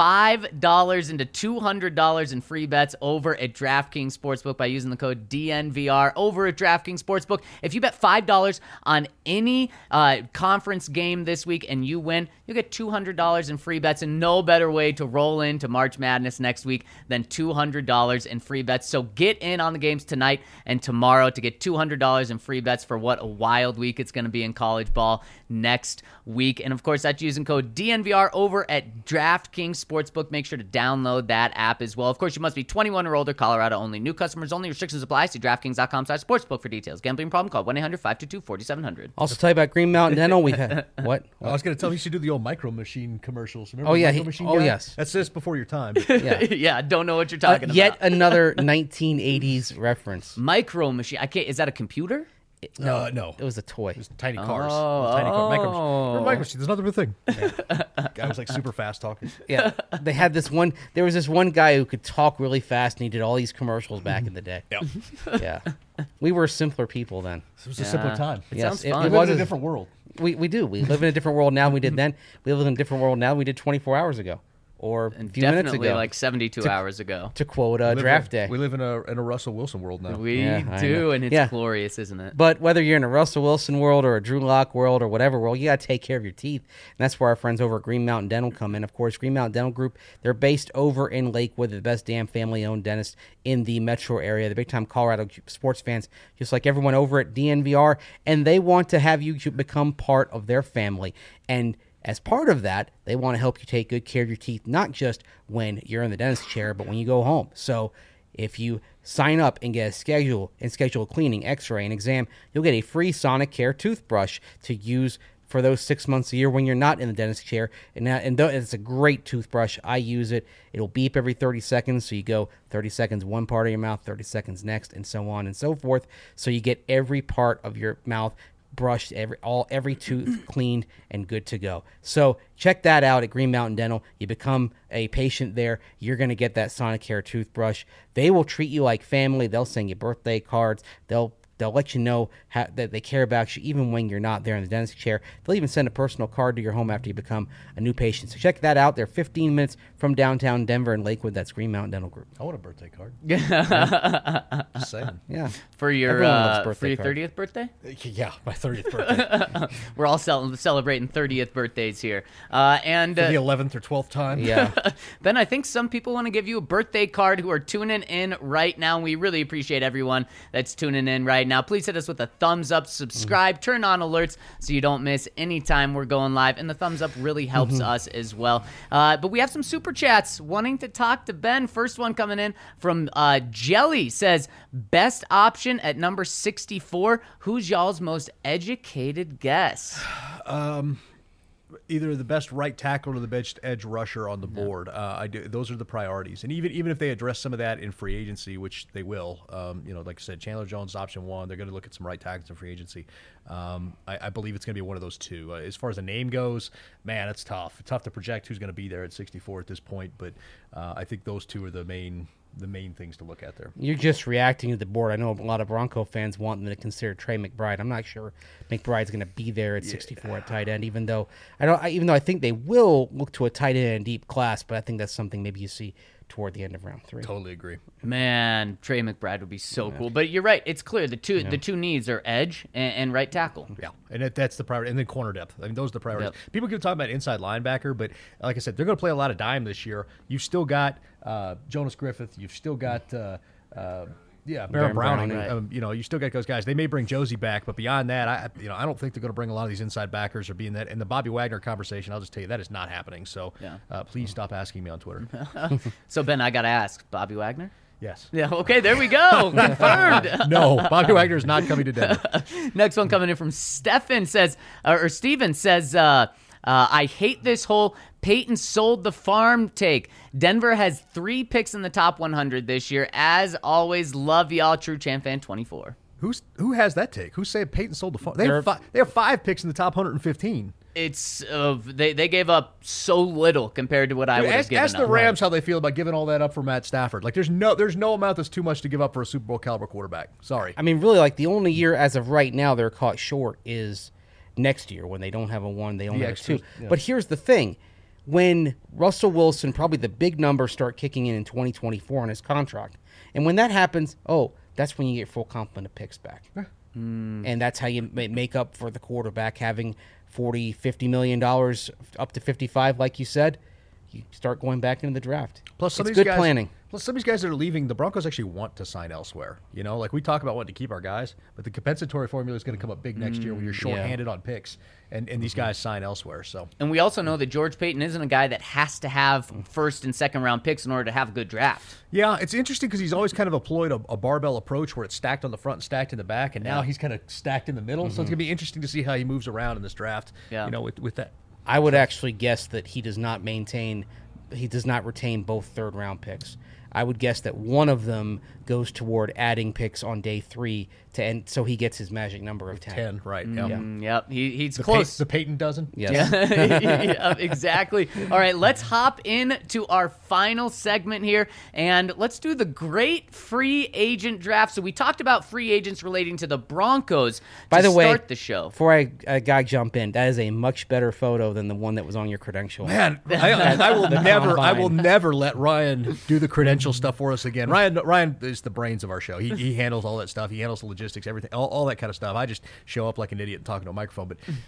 $5 into $200 in free bets over at DraftKings Sportsbook by using the code DNVR over at DraftKings Sportsbook. If you bet $5 on any conference game this week and you win, you'll get $200 in free bets, and no better way to roll into March Madness next week than $200 in free bets. So get in on the games tonight and tomorrow to get $200 in free bets for what a wild week it's going to be in college ball next week. And of course, that's using code DNVR over at DraftKings Sportsbook. Make sure to download that app as well. Of course, you must be 21 or older, Colorado only. New customers only. Restrictions apply. See DraftKings.com/sportsbook for details. Gambling problem? Call 1-800-522-4700. Also, tell you about Green Mountain Dental. We've had what? I was going to tell you should do the old Micro Machine commercials. Remember Oh, yeah, Micro Machine oh, guy? yes. That's just before your time. but- Yeah. Yeah, don't know what you're talking about. Yet another 1980s reference. Micro Machine. I can't. Is that a computer? no. It was a toy. It's tiny cars. Oh, Tiny car. Micro Machine. oh. Remember Micro Machine? There's another thing. Guy was like super fast talking. Yeah, they had this one. There was this one guy who could talk really fast, and he did all these commercials back in the day. Yeah. Yeah, we were simpler people then. It was a simpler time. It Yes, sounds it- fun. it We live was in a a- different world. We do. We live in a different world now than we did then. We live in a different world now than we did 24 hours ago, or a few minutes Definitely ago. like 72 hours ago. to quote We live Draft in- Day. We live in a Russell Wilson world now. We Yeah, I do, know. and it's Yeah. glorious, isn't it? But whether you're in a Russell Wilson world or a Drew Lock world or whatever world, you got to take care of your teeth. And that's where our friends over at Green Mountain Dental come in. Of course, Green Mountain Dental Group, they're based over in Lakewood, the best damn family-owned dentist in the metro area. The big-time Colorado sports fans, just like everyone over at DNVR, and they want to have you become part of their family. And as part of that, they want to help you take good care of your teeth, not just when you're in the dentist chair, but when you go home. So if you sign up and get a schedule a cleaning, x-ray, and exam, you'll get a free Sonicare toothbrush to use for those 6 months a year when you're not in the dentist chair. And it's a great toothbrush. I use it. It'll beep every 30 seconds. So you go 30 seconds one part of your mouth, 30 seconds next, and so on and so forth. So you get every part of your mouth brushed, every tooth cleaned and good to go. So check that out at Green Mountain Dental. You become a patient there, you're going to get that Sonicare toothbrush. They will treat you like family. They'll send you birthday cards. They'll let you know that they care about you even when you're not there in the dentist chair. They'll even send a personal card to your home after you become a new patient. So check that out. They're 15 minutes from downtown Denver and Lakewood. That's Green Mountain Dental Group. I want a birthday card. Just saying. Yeah. For your Everyone loves birthday 30th birthday? Yeah, my 30th birthday. We're all celebrating 30th birthdays here. And For the 11th or 12th time. Yeah. Ben, I think some people want to give you a birthday card who are tuning in right now. We really appreciate everyone that's tuning in right now. Please hit us with a thumbs up, subscribe, turn on alerts so you don't miss any time we're going live. And the thumbs up really helps us as well. But we have some super chats wanting to talk to Ben. First one coming in from Jelly says, best option at number 64. Who's y'all's most educated guess? Either the best right tackle or the best edge rusher on the board. Those are the priorities. And even if they address some of that in free agency, which they will, like I said, Chandler Jones option one. They're going to look at some right tackles in free agency. I believe it's going to be one of those two. As far as the name goes, man, it's tough. It's tough to project who's going to be there at 64 at this point. But I think those two are the main things to look at there. You're just reacting to the board. I know a lot of Bronco fans want them to consider Trey McBride. I'm not sure McBride's going to be there at 64 at tight end, even though I think they will look to a tight end in deep class, but I think that's something maybe you see toward the end of round 3. Totally agree. Man, Trey McBride would be so cool. But you're right. It's clear the two needs are edge and right tackle. Yeah, and that's the priority. And then corner depth. I mean, those are the priorities. Yep. People keep talking about inside linebacker, but like I said, they're going to play a lot of dime this year. You've still got Jonas Griffith. You've still got Baron Browning. Right. You still got those guys. They may bring Josie back, but beyond that, I don't think they're going to bring a lot of these inside backers or be in that. And the Bobby Wagner conversation, I'll just tell you, that is not happening. So please stop asking me on Twitter. So, Ben, I got to ask, Bobby Wagner? Yes. Yeah, okay, there we go. Confirmed. No, Bobby Wagner is not coming to Denver. Next one coming in from Steven says, I hate this whole Peyton sold the farm take. Denver has 3 picks in the top 100 this year. As always, love y'all. True Champ Fan 24. Who has that take? Who's saying Peyton sold the farm? They have 5 picks in the top 115. It's they gave up so little compared to what I would have given Ask the up. Rams how they feel about giving all that up for Matt Stafford. Like there's no amount that's too much to give up for a Super Bowl caliber quarterback. Sorry. I mean, really, like the only year as of right now they're caught short is next year when they don't have a 1, they only have a 2. Yeah. But here's the thing. When Russell Wilson, probably the big numbers start kicking in 2024 on his contract. And when that happens, that's when you get full complement of picks back. And that's how you make up for the quarterback having $40, $50 million up to 55, like you said. You start going back into the draft. Plus, some it's of these good guys, planning. Plus, some of these guys that are leaving, the Broncos actually want to sign elsewhere. You know, like we talk about wanting to keep our guys, but the compensatory formula is going to come up big next year when you're shorthanded on picks, and these guys sign elsewhere. So, And we also know that George Payton isn't a guy that has to have first and second round picks in order to have a good draft. yeah, it's interesting because he's always kind of employed a barbell approach where it's stacked on the front and stacked in the back, and now he's kind of stacked in the middle. So it's going to be interesting to see how he moves around in this draft. Yeah. You know, with that. I would actually guess that he does not retain both third-round picks. I would guess that one of them goes toward adding picks on day 3 to end, so he gets his magic number of 10. Right. Yep. Yep, he's close. The Peyton dozen. Yes. Yeah, exactly. All right, let's hop into our final segment here, and let's do the great free agent draft. So we talked about free agents relating to the Broncos By to the way, start the show. Before I jump in, that is a much better photo than the one that was on your credential. Man, I will never. I will combine. never let Ryan do the credential stuff for us again. Ryan is the brains of our show. He handles all that stuff. He handles the logistics, everything, all that kind of stuff. I just show up like an idiot and talking to a microphone.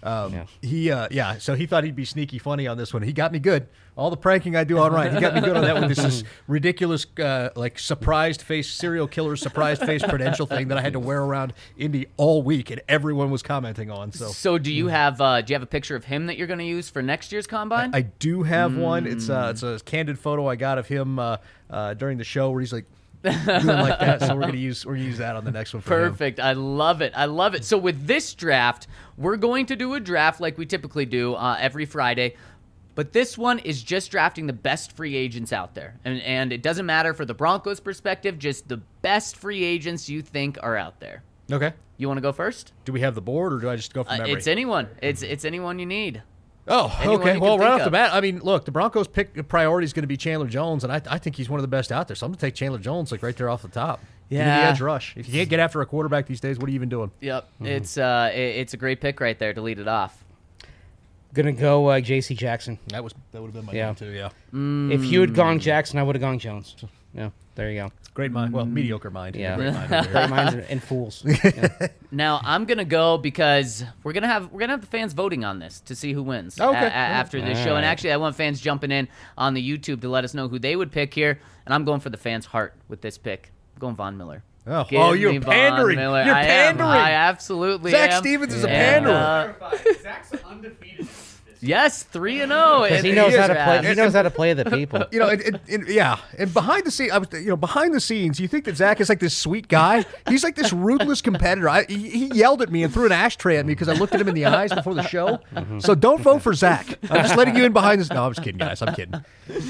But so he thought he'd be sneaky funny on this one. He got me good. All the pranking I do on Ryan, he got me good on that one. This is ridiculous, like surprised face serial killer surprised face credential thing that I had to wear around Indy all week, and everyone was commenting on. So Do you have a picture of him that you're going to use for next year's combine? I do have one. It's a candid photo I got of him during the show where he's like doing like that. So we're gonna use that on the next one. For him. Perfect. I love it. So with this draft, we're going to do a draft like we typically do every Friday. But this one is just drafting the best free agents out there. And it doesn't matter for the Broncos' perspective, just the best free agents you think are out there. Okay. You want to go first? Do we have the board, or do I just go from memory? It's anyone. It's anyone you need. Oh, Anyone okay. you Well, can right think off the of. bat, I mean, look, the Broncos' pick priority is going to be Chandler Jones, and I think he's one of the best out there. So I'm going to take Chandler Jones like right there off the top. Give me the Yeah. edge rush. If you can't get after a quarterback these days, what are you even doing? Yep. It's a great pick right there to lead it off. Gonna go J.C. Jackson. That would have been my Yeah. name too. Yeah. If you had gone Jackson, I would have gone Jones. Yeah, there you go. Great mind. Well, mediocre mind. Yeah. Great mind over here. Great minds and fools. Yeah. Now I'm gonna go because we're gonna have the fans voting on this to see who wins Okay. after this All show. And right. actually, I want fans jumping in on the YouTube to let us know who they would pick here. And I'm going for the fans' heart with this pick. I'm going Von Miller. Oh, Give you're me Von pandering. Miller. You're I pandering. Am. I absolutely Zach am. Stevens is a And, panderer. Clarify, Zach's undefeated in this. Yes, 3-0. Because he in knows this how to play. draft. He knows how to play the people. You know, and behind the scenes, behind the scenes, you think that Zach is like this sweet guy. He's like this ruthless competitor. He yelled at me and threw an ashtray at me because I looked at him in the eyes before the show. So don't vote for Zach. I'm just letting you in behind this. No, I'm just kidding, guys. I'm kidding.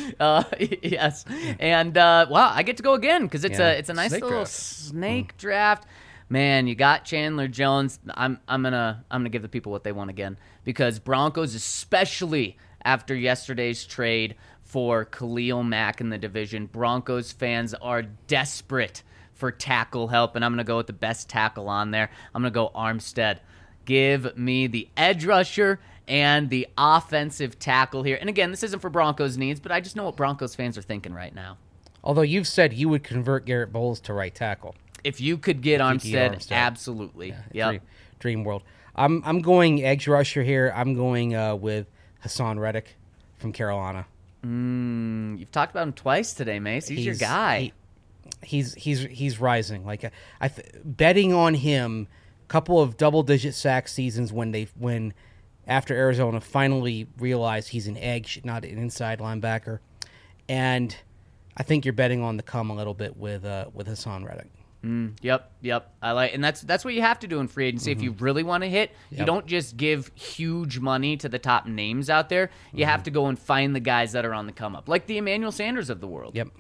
Yes, and wow, I get to go again because it's Yeah. a nice Snake little draft. snake draft. Man, you got Chandler Jones. I'm gonna give the people what they want again because Broncos, especially after yesterday's trade for Khalil Mack in the division, Broncos fans are desperate for tackle help, and I'm gonna go with the best tackle on there. I'm gonna go Armstead. Give me the edge rusher and the offensive tackle here. And again, this isn't for Broncos needs, but I just know what Broncos fans are thinking right now. Although you've said you would convert Garrett Bowles to right tackle. If you could get you could get Armstead, Armstead. absolutely. Yep. Dream world. I'm going edge rusher here. I'm going with Hassan Reddick from Carolina. You've talked about him twice today, Mace. He's your guy. He's rising. Like betting on him. Couple of double-digit sack seasons when after Arizona finally realized he's an edge, not an inside linebacker, and I think you're betting on the come a little bit with Hassan Reddick. Yep. I like, and that's what you have to do in free agency if you really want to hit. You don't just give huge money to the top names out there. You have to go and find the guys that are on the come up, like the Emmanuel Sanders of the world. Yep.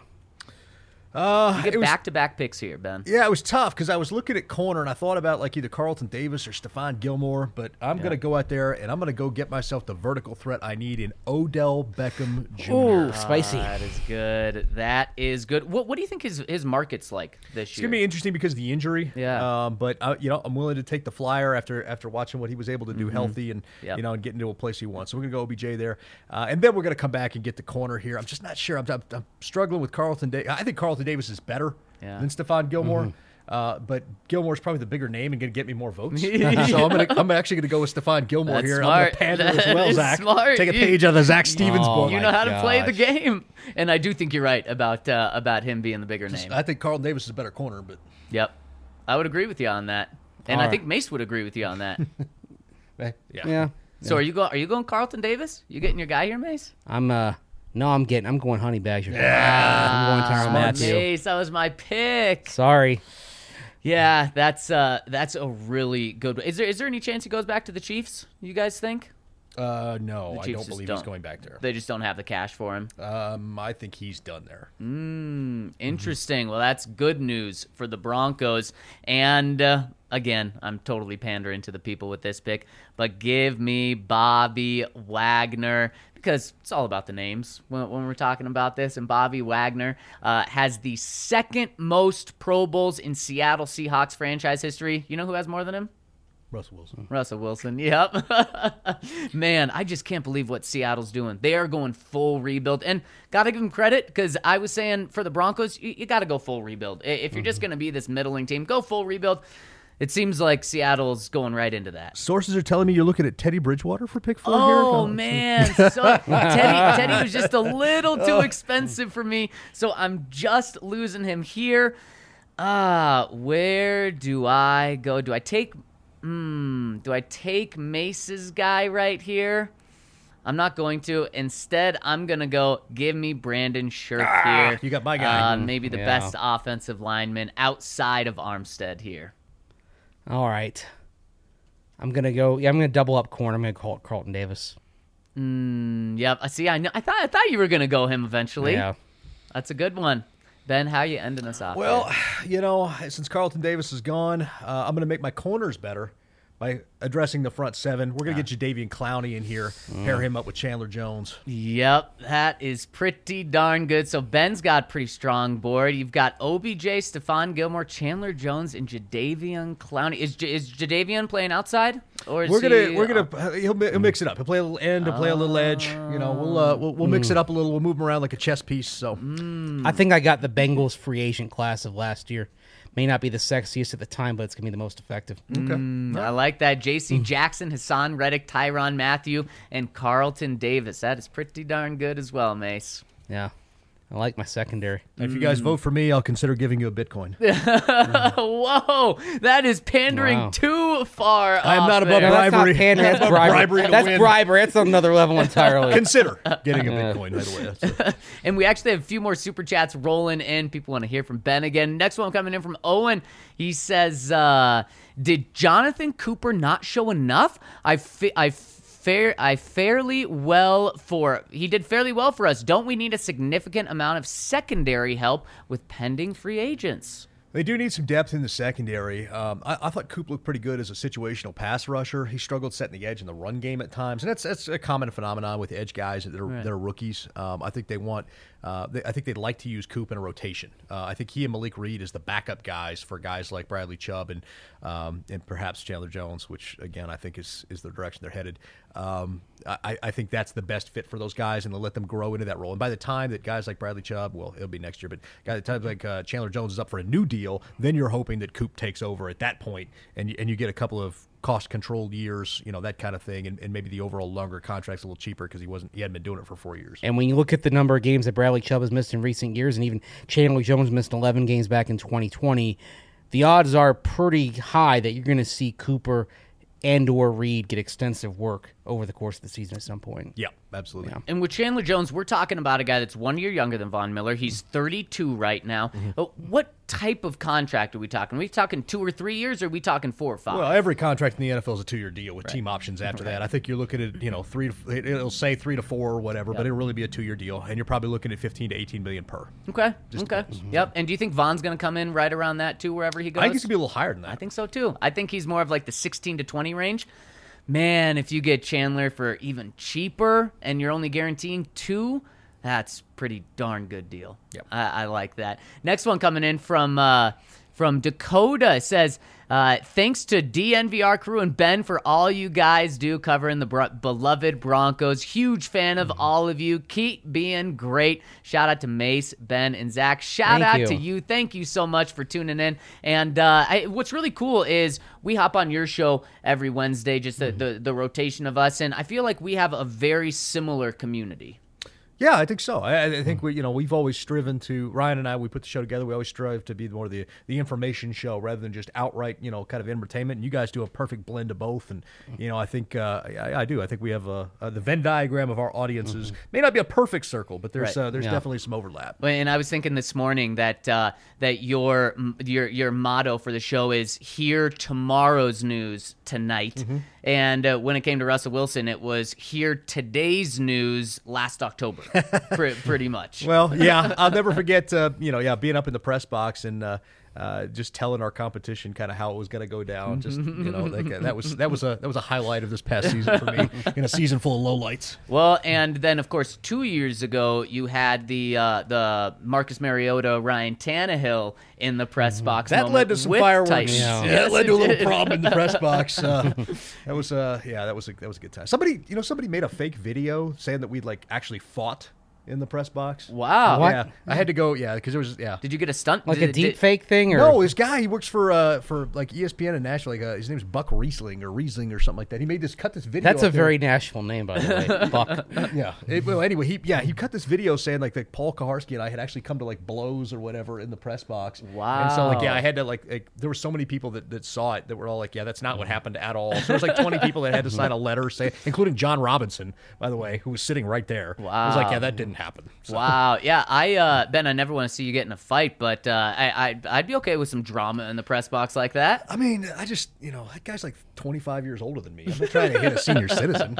You get back-to-back picks here, Ben. Yeah, it was tough because I was looking at corner and I thought about like either Carlton Davis or Stephon Gilmore, but I'm going to go out there and I'm going to go get myself the vertical threat I need in Odell Beckham Jr. Ooh, spicy. That is good. That is good. What do you think his market's like this It's year? going to be interesting because of the injury. Yeah. But I'm willing to take the flyer after watching what he was able to do healthy and and get into a place he wants. So we're going to go OBJ there, and then we're going to come back and get the corner here. I'm just not sure. I'm struggling with Carlton Davis. I think Carlton Davis is better than Stephon Gilmore. But Gilmore's probably the bigger name and going to get me more votes. So I'm actually going to go with Stephon Gilmore That's here. smart. I'm going to pander as well, That is Zach. smart. Take a page out of the Zach Stevens Oh, book. You know how to play the game, and I do think you're right about him being the bigger name. I think Carlton Davis is a better corner, but Yep, I would agree with you on that, and All I right. think Mace would agree with you on that. Yeah. So are you going Carlton Davis? You getting your guy here, Mace? I'm going Honey Badger. I'm going Tyrann Mathieu. Mace, that was my pick. Sorry. Yeah, that's a really good one. Is there any chance he goes back to the Chiefs? You guys think? no, The I Chiefs don't just believe he's going back there. They just don't have the cash for him. I think he's done there. Interesting. Well, that's good news for the Broncos. And again, I'm totally pandering to the people with this pick, but give me Bobby Wagner because it's all about the names when we're talking about this. And Bobby Wagner has the second most Pro Bowls in Seattle Seahawks franchise history. You know who has more than him? Russell Wilson, yep. Man, I just can't believe what Seattle's doing. They are going full rebuild. And got to give them credit because I was saying for the Broncos, you got to go full rebuild. If you're just going to be this middling team, go full rebuild. It seems like Seattle's going right into that. Sources are telling me you're looking at Teddy Bridgewater for pick 4 here. Oh, man. So Teddy was just a little too expensive for me, so I'm just losing him here. Where do I go? Do I take Mace's guy right here? I'm not going to. Instead, I'm going to go give me Brandon Scherf here. You got my guy. Maybe the best offensive lineman outside of Armstead here. All right. I'm going to double up corner. I'm going to call it Carlton Davis. Yep. See, I know. I thought you were going to go him eventually. Yeah. That's a good one. Ben, how you ending us off? Well, since Carlton Davis is gone, I'm going to make my corners better by addressing the front seven. We're going to get Jadeveon Clowney in here, pair him up with Chandler Jones. Yep, that is pretty darn good. So Ben's got a pretty strong board. You've got OBJ, Stephon Gilmore, Chandler Jones, and Jadeveon Clowney. Is Jadeveon playing outsid, or is He'll mix it up. He'll play a little end, he'll play a little edge. We'll mix it up a little. We'll move him around like a chess piece. So I think I got the Bengals free agent class of last year. May not be the sexiest at the time, but it's going to be the most effective. Okay. I like that. J.C. Jackson, Hassan Reddick, Tyrann Mathieu, and Carlton Davis. That is pretty darn good as well, Mace. Yeah. I like my secondary. If you guys vote for me, I'll consider giving you a Bitcoin. Whoa, that is pandering too far. I am not above there. That's not bribery. pandering, that's That's bribery. bribery to That's win. bribery. That's another level entirely. Consider getting a Bitcoin, by the way. That's And we actually have a few more super chats rolling in. People want to hear from Ben again. Next one coming in from Owen. He says, did Jonathan Cooper not show enough? He did fairly well for us. Don't we need a significant amount of secondary help with pending free agents? They do need some depth in the secondary. I thought Coop looked pretty good as a situational pass rusher. He struggled setting the edge in the run game at times, and that's a common phenomenon with edge guys that are rookies. I think I think they'd like to use Coop in a rotation. I think he and Malik Reed is the backup guys for guys like Bradley Chubb and perhaps Chandler Jones, which again I think is the direction they're headed. I think that's the best fit for those guys, and they'll let them grow into that role. And by the time that guys like Bradley Chubb, well, it'll be next year, but by the time like Chandler Jones is up for a new deal, then you're hoping that Coop takes over at that point, and you get a couple of cost-controlled years, that kind of thing, and maybe the overall longer contract's a little cheaper because he hadn't been doing it for 4 years. And when you look at the number of games that Bradley Chubb has missed in recent years, and even Chandler Jones missed 11 games back in 2020, the odds are pretty high that you're going to see Cooper and or Reed get extensive work over the course of the season at some point. Yeah, absolutely. Yeah. And with Chandler Jones, we're talking about a guy that's 1 year younger than Von Miller. He's 32 right now. What type of contract are we talking? Are we talking 2 or 3 years, or are we talking 4 or 5? Well, every contract in the NFL is a 2-year deal with team options after that. I think you're looking at, it'll say 3 to 4 or whatever, but it'll really be a 2-year deal, and you're probably looking at 15 to 18 million per. Okay. depends. Yep. And do you think Von's going to come in right around that too, wherever he goes? I think he's gonna be a little higher than that. I think so too. I think he's more of like the 16 to 20 range. Man, if you get Chandler for even cheaper and you're only guaranteeing 2, that's pretty darn good deal. Yep. I like that. Next one coming in from Dakota says, thanks to DNVR crew and Ben for all you guys do covering the beloved Broncos. Huge fan of all of you. Keep being great. Shout out to Mace, Ben, and Zach. Shout out to you. Thank you so much for tuning in. And what's really cool is we hop on your show every Wednesday, just the rotation of us, and I feel like we have a very similar community. Yeah, I think so. I think we've always striven to, Ryan and I, we put the show together. We always strive to be more the information show rather than just outright, kind of entertainment. And you guys do a perfect blend of both. And I think I do. I think we have the Venn diagram of our audiences may not be a perfect circle, but there's definitely some overlap. And I was thinking this morning that that your motto for the show is "Hear tomorrow's news tonight." And when it came to Russell Wilson, it was "Hear today's news last October." Pretty much. Well, yeah, I'll never forget, being up in the press box and just telling our competition kind of how it was going to go down. Just that was a highlight of this past season for me in a season full of lowlights. Well, and then of course 2 years ago you had the Marcus Mariota, Ryan Tannehill in the press box. That led to some fireworks. Titans. Yeah, Yes, that led to a little did. problem in the press box. That was a good time. Somebody made a fake video saying that we'd actually fought in the press box. Wow. What? Yeah, I had to go. Yeah, because there was Did you get a stunt? Like a deep fake thing? Or? No, this guy, he works for ESPN in Nashville. His name's Buck Riesling or something like that. He cut this video. That's a up there. very Nashville name, by the way. Buck. Yeah. Anyway, he cut this video saying that Paul Kaharski and I had actually come to blows or whatever in the press box. Wow. And so I had to there were so many people that saw it that were all that's not what happened at all. So there was 20 people that had to sign a letter including John Robinson, by the way, who was sitting right there. Wow. It was that didn't happen. So. Wow. Yeah. Ben, I never want to see you get in a fight, but I'd be okay with some drama in the press box like that. I mean, I just, that guy's 25 years older than me. I'm not trying to hit a senior citizen.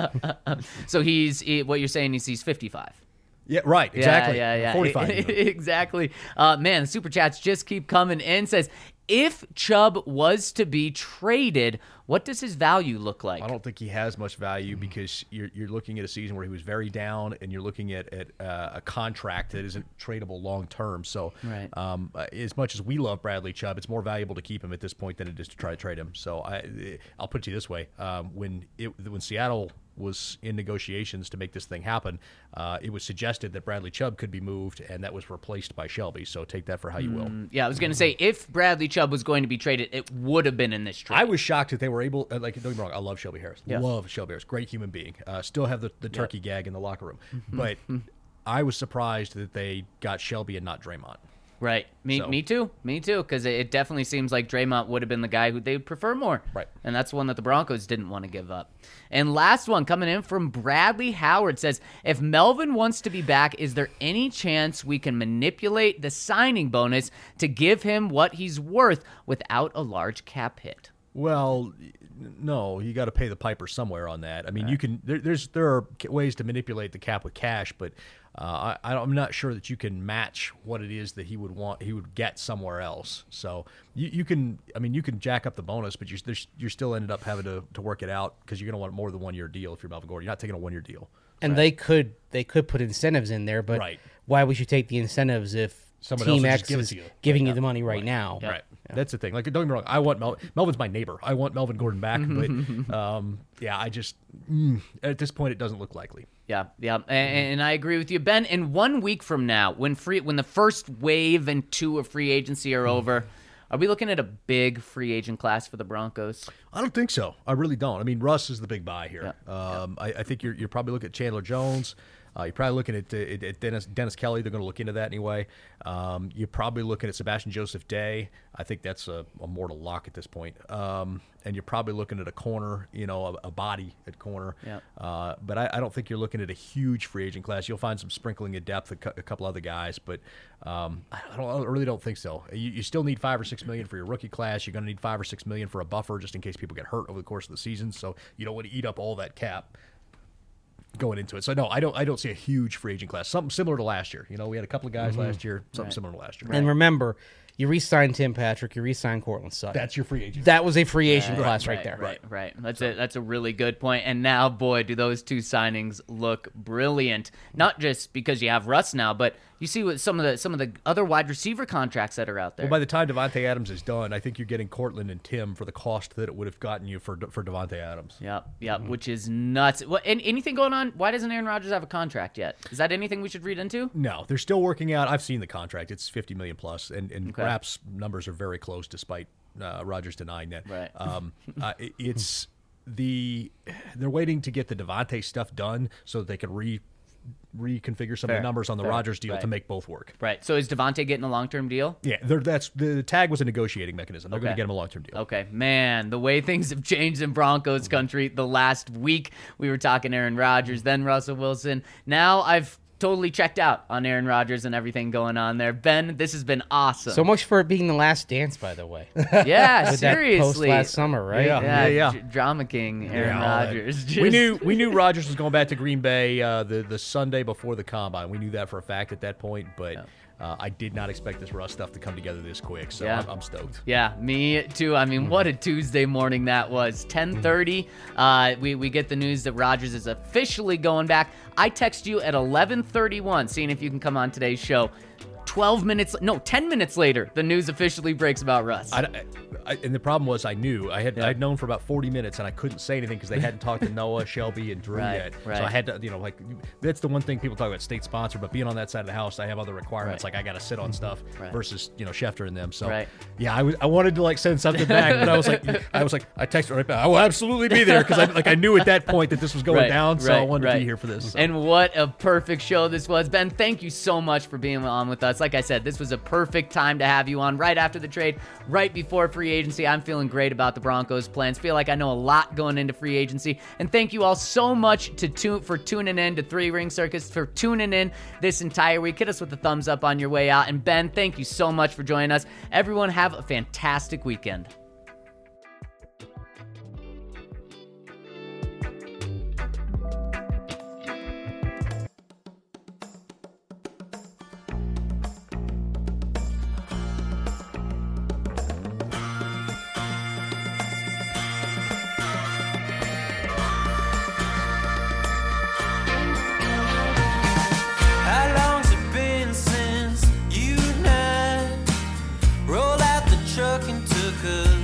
So what you're saying is he's 55. Yeah, right. Exactly. Yeah. 45. Exactly. Man, the super chats just keep coming in. Says, if Chubb was to be traded, what does his value look like? I don't think he has much value because you're looking at a season where he was very down, and you're looking at a contract that isn't tradable long term. So, Right. As much as we love Bradley Chubb, it's more valuable to keep him at this point than it is to try to trade him. So, I'll put it to you this way: when Seattle was in negotiations to make this thing happen, it was suggested that Bradley Chubb could be moved, and that was replaced by Shelby. So take that for how you will. Yeah, I was going to say, if Bradley Chubb was going to be traded, it would have been in this trade. I was shocked that they were able. Don't get me wrong, I love Shelby Harris. Yeah. Love Shelby Harris. Great human being. Still have the turkey gag in the locker room. But I was surprised that they got Shelby and not Draymond. Right. Me too, because it definitely seems like Draymond would have been the guy who they would prefer more. Right. And that's one that the Broncos didn't want to give up. And last one coming in from Bradley Howard says, if Melvin wants to be back, is there any chance we can manipulate the signing bonus to give him what he's worth without a large cap hit? Well, no, you got to pay the piper somewhere on that. I mean, you can. There are ways to manipulate the cap with cash, but I'm not sure that you can match what it is that he would get somewhere else. So you can. I mean, you can jack up the bonus, but you're still ended up having to work it out because you're going to want more than 1 year deal if you're Melvin Gordon. You're not taking a 1 year deal. And they could put incentives in there, but Right. why would you take the incentives if Someone Team else will just X give it is to you giving you the money right now? Right. That's the thing. Don't get me wrong. I want Melvin's my neighbor. I want Melvin Gordon back, but I just at this point it doesn't look likely. Yeah, and I agree with you, Ben. In 1 week from now, when the first wave and 2 of free agency are over, are we looking at a big free agent class for the Broncos? I don't think so. I really don't. I mean, Russ is the big buy here. I think you're probably looking at Chandler Jones. You're probably looking at Dennis Kelly. They're going to look into that anyway. You're probably looking at Sebastian Joseph Day. I think that's a mortal lock at this point. And you're probably looking at a corner, a body at corner. Yep. But I don't think you're looking at a huge free agent class. You'll find some sprinkling of depth, a couple other guys, but I really don't think so. You still need $5 or $6 million for your rookie class. You're going to need $5 or $6 million for a buffer just in case people get hurt over the course of the season. So you don't want to eat up all that cap going into it. So no, I don't see a huge free agent class. Something similar to last year. We had a couple of guys last year. Something similar to last year. And remember, you re-signed Tim Patrick, you re-signed Cortland Sutton. That's your free agent. That was a free agent class right there. Right. That's a really good point. And now, boy, do those two signings look brilliant. Not just because you have Russ now, but you see what some of the other wide receiver contracts that are out there. Well, by the time Devontae Adams is done, I think you're getting Cortland and Tim for the cost that it would have gotten you for Devontae Adams. Yep, which is nuts. Anything going on? Why doesn't Aaron Rodgers have a contract yet? Is that anything we should read into? No, they're still working out. I've seen the contract. It's $50 million plus, and Rapp's numbers are very close, despite Rodgers denying that. Right. They're waiting to get the Devontae stuff done so that they can reconfigure some of the numbers on the Rodgers deal to make both work. Right. So is Devontae getting a long-term deal? Yeah, that's the tag was a negotiating mechanism. They're going to get him a long-term deal. Okay, man, the way things have changed in Broncos country the last week. We were talking Aaron Rodgers, then Russell Wilson. Now I've totally checked out on Aaron Rodgers and everything going on there. Ben, this has been awesome. So much for it being the last dance, by the way. Yeah, With seriously. That post last summer, right? Yeah. Drama king Aaron Rodgers. We knew Rodgers was going back to Green Bay the Sunday before the combine. We knew that for a fact at that point, but I did not expect this Russ stuff to come together this quick, so I'm stoked. Yeah, me too. I mean, what a Tuesday morning that was. 10:30, we get the news that Rodgers is officially going back. I text you at 11:31, seeing if you can come on today's show. 10 minutes later, the news officially breaks about Russ. And the problem was I knew. I'd known for about 40 minutes, and I couldn't say anything because they hadn't talked to Noah, Shelby, and Drew yet. Right. So I had to, that's the one thing people talk about, state sponsor, but being on that side of the house, I have other requirements. Like I got to sit on stuff versus, Schefter and them. So, I wanted to, send something back, but I was like, I texted right back, I will absolutely be there because I knew at that point that this was going down, so I wanted to be here for this. So. And what a perfect show this was. Ben, thank you so much for being on with us. Like I said, this was a perfect time to have you on right after the trade, right before free agency. I'm feeling great about the Broncos' plans. Feel like I know a lot going into free agency. And thank you all so much for tuning in to Three Ring Circus, for tuning in this entire week. Hit us with a thumbs up on your way out. And Ben, thank you so much for joining us. Everyone have a fantastic weekend. Rolled out the truck and took a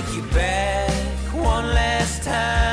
take you back one last time.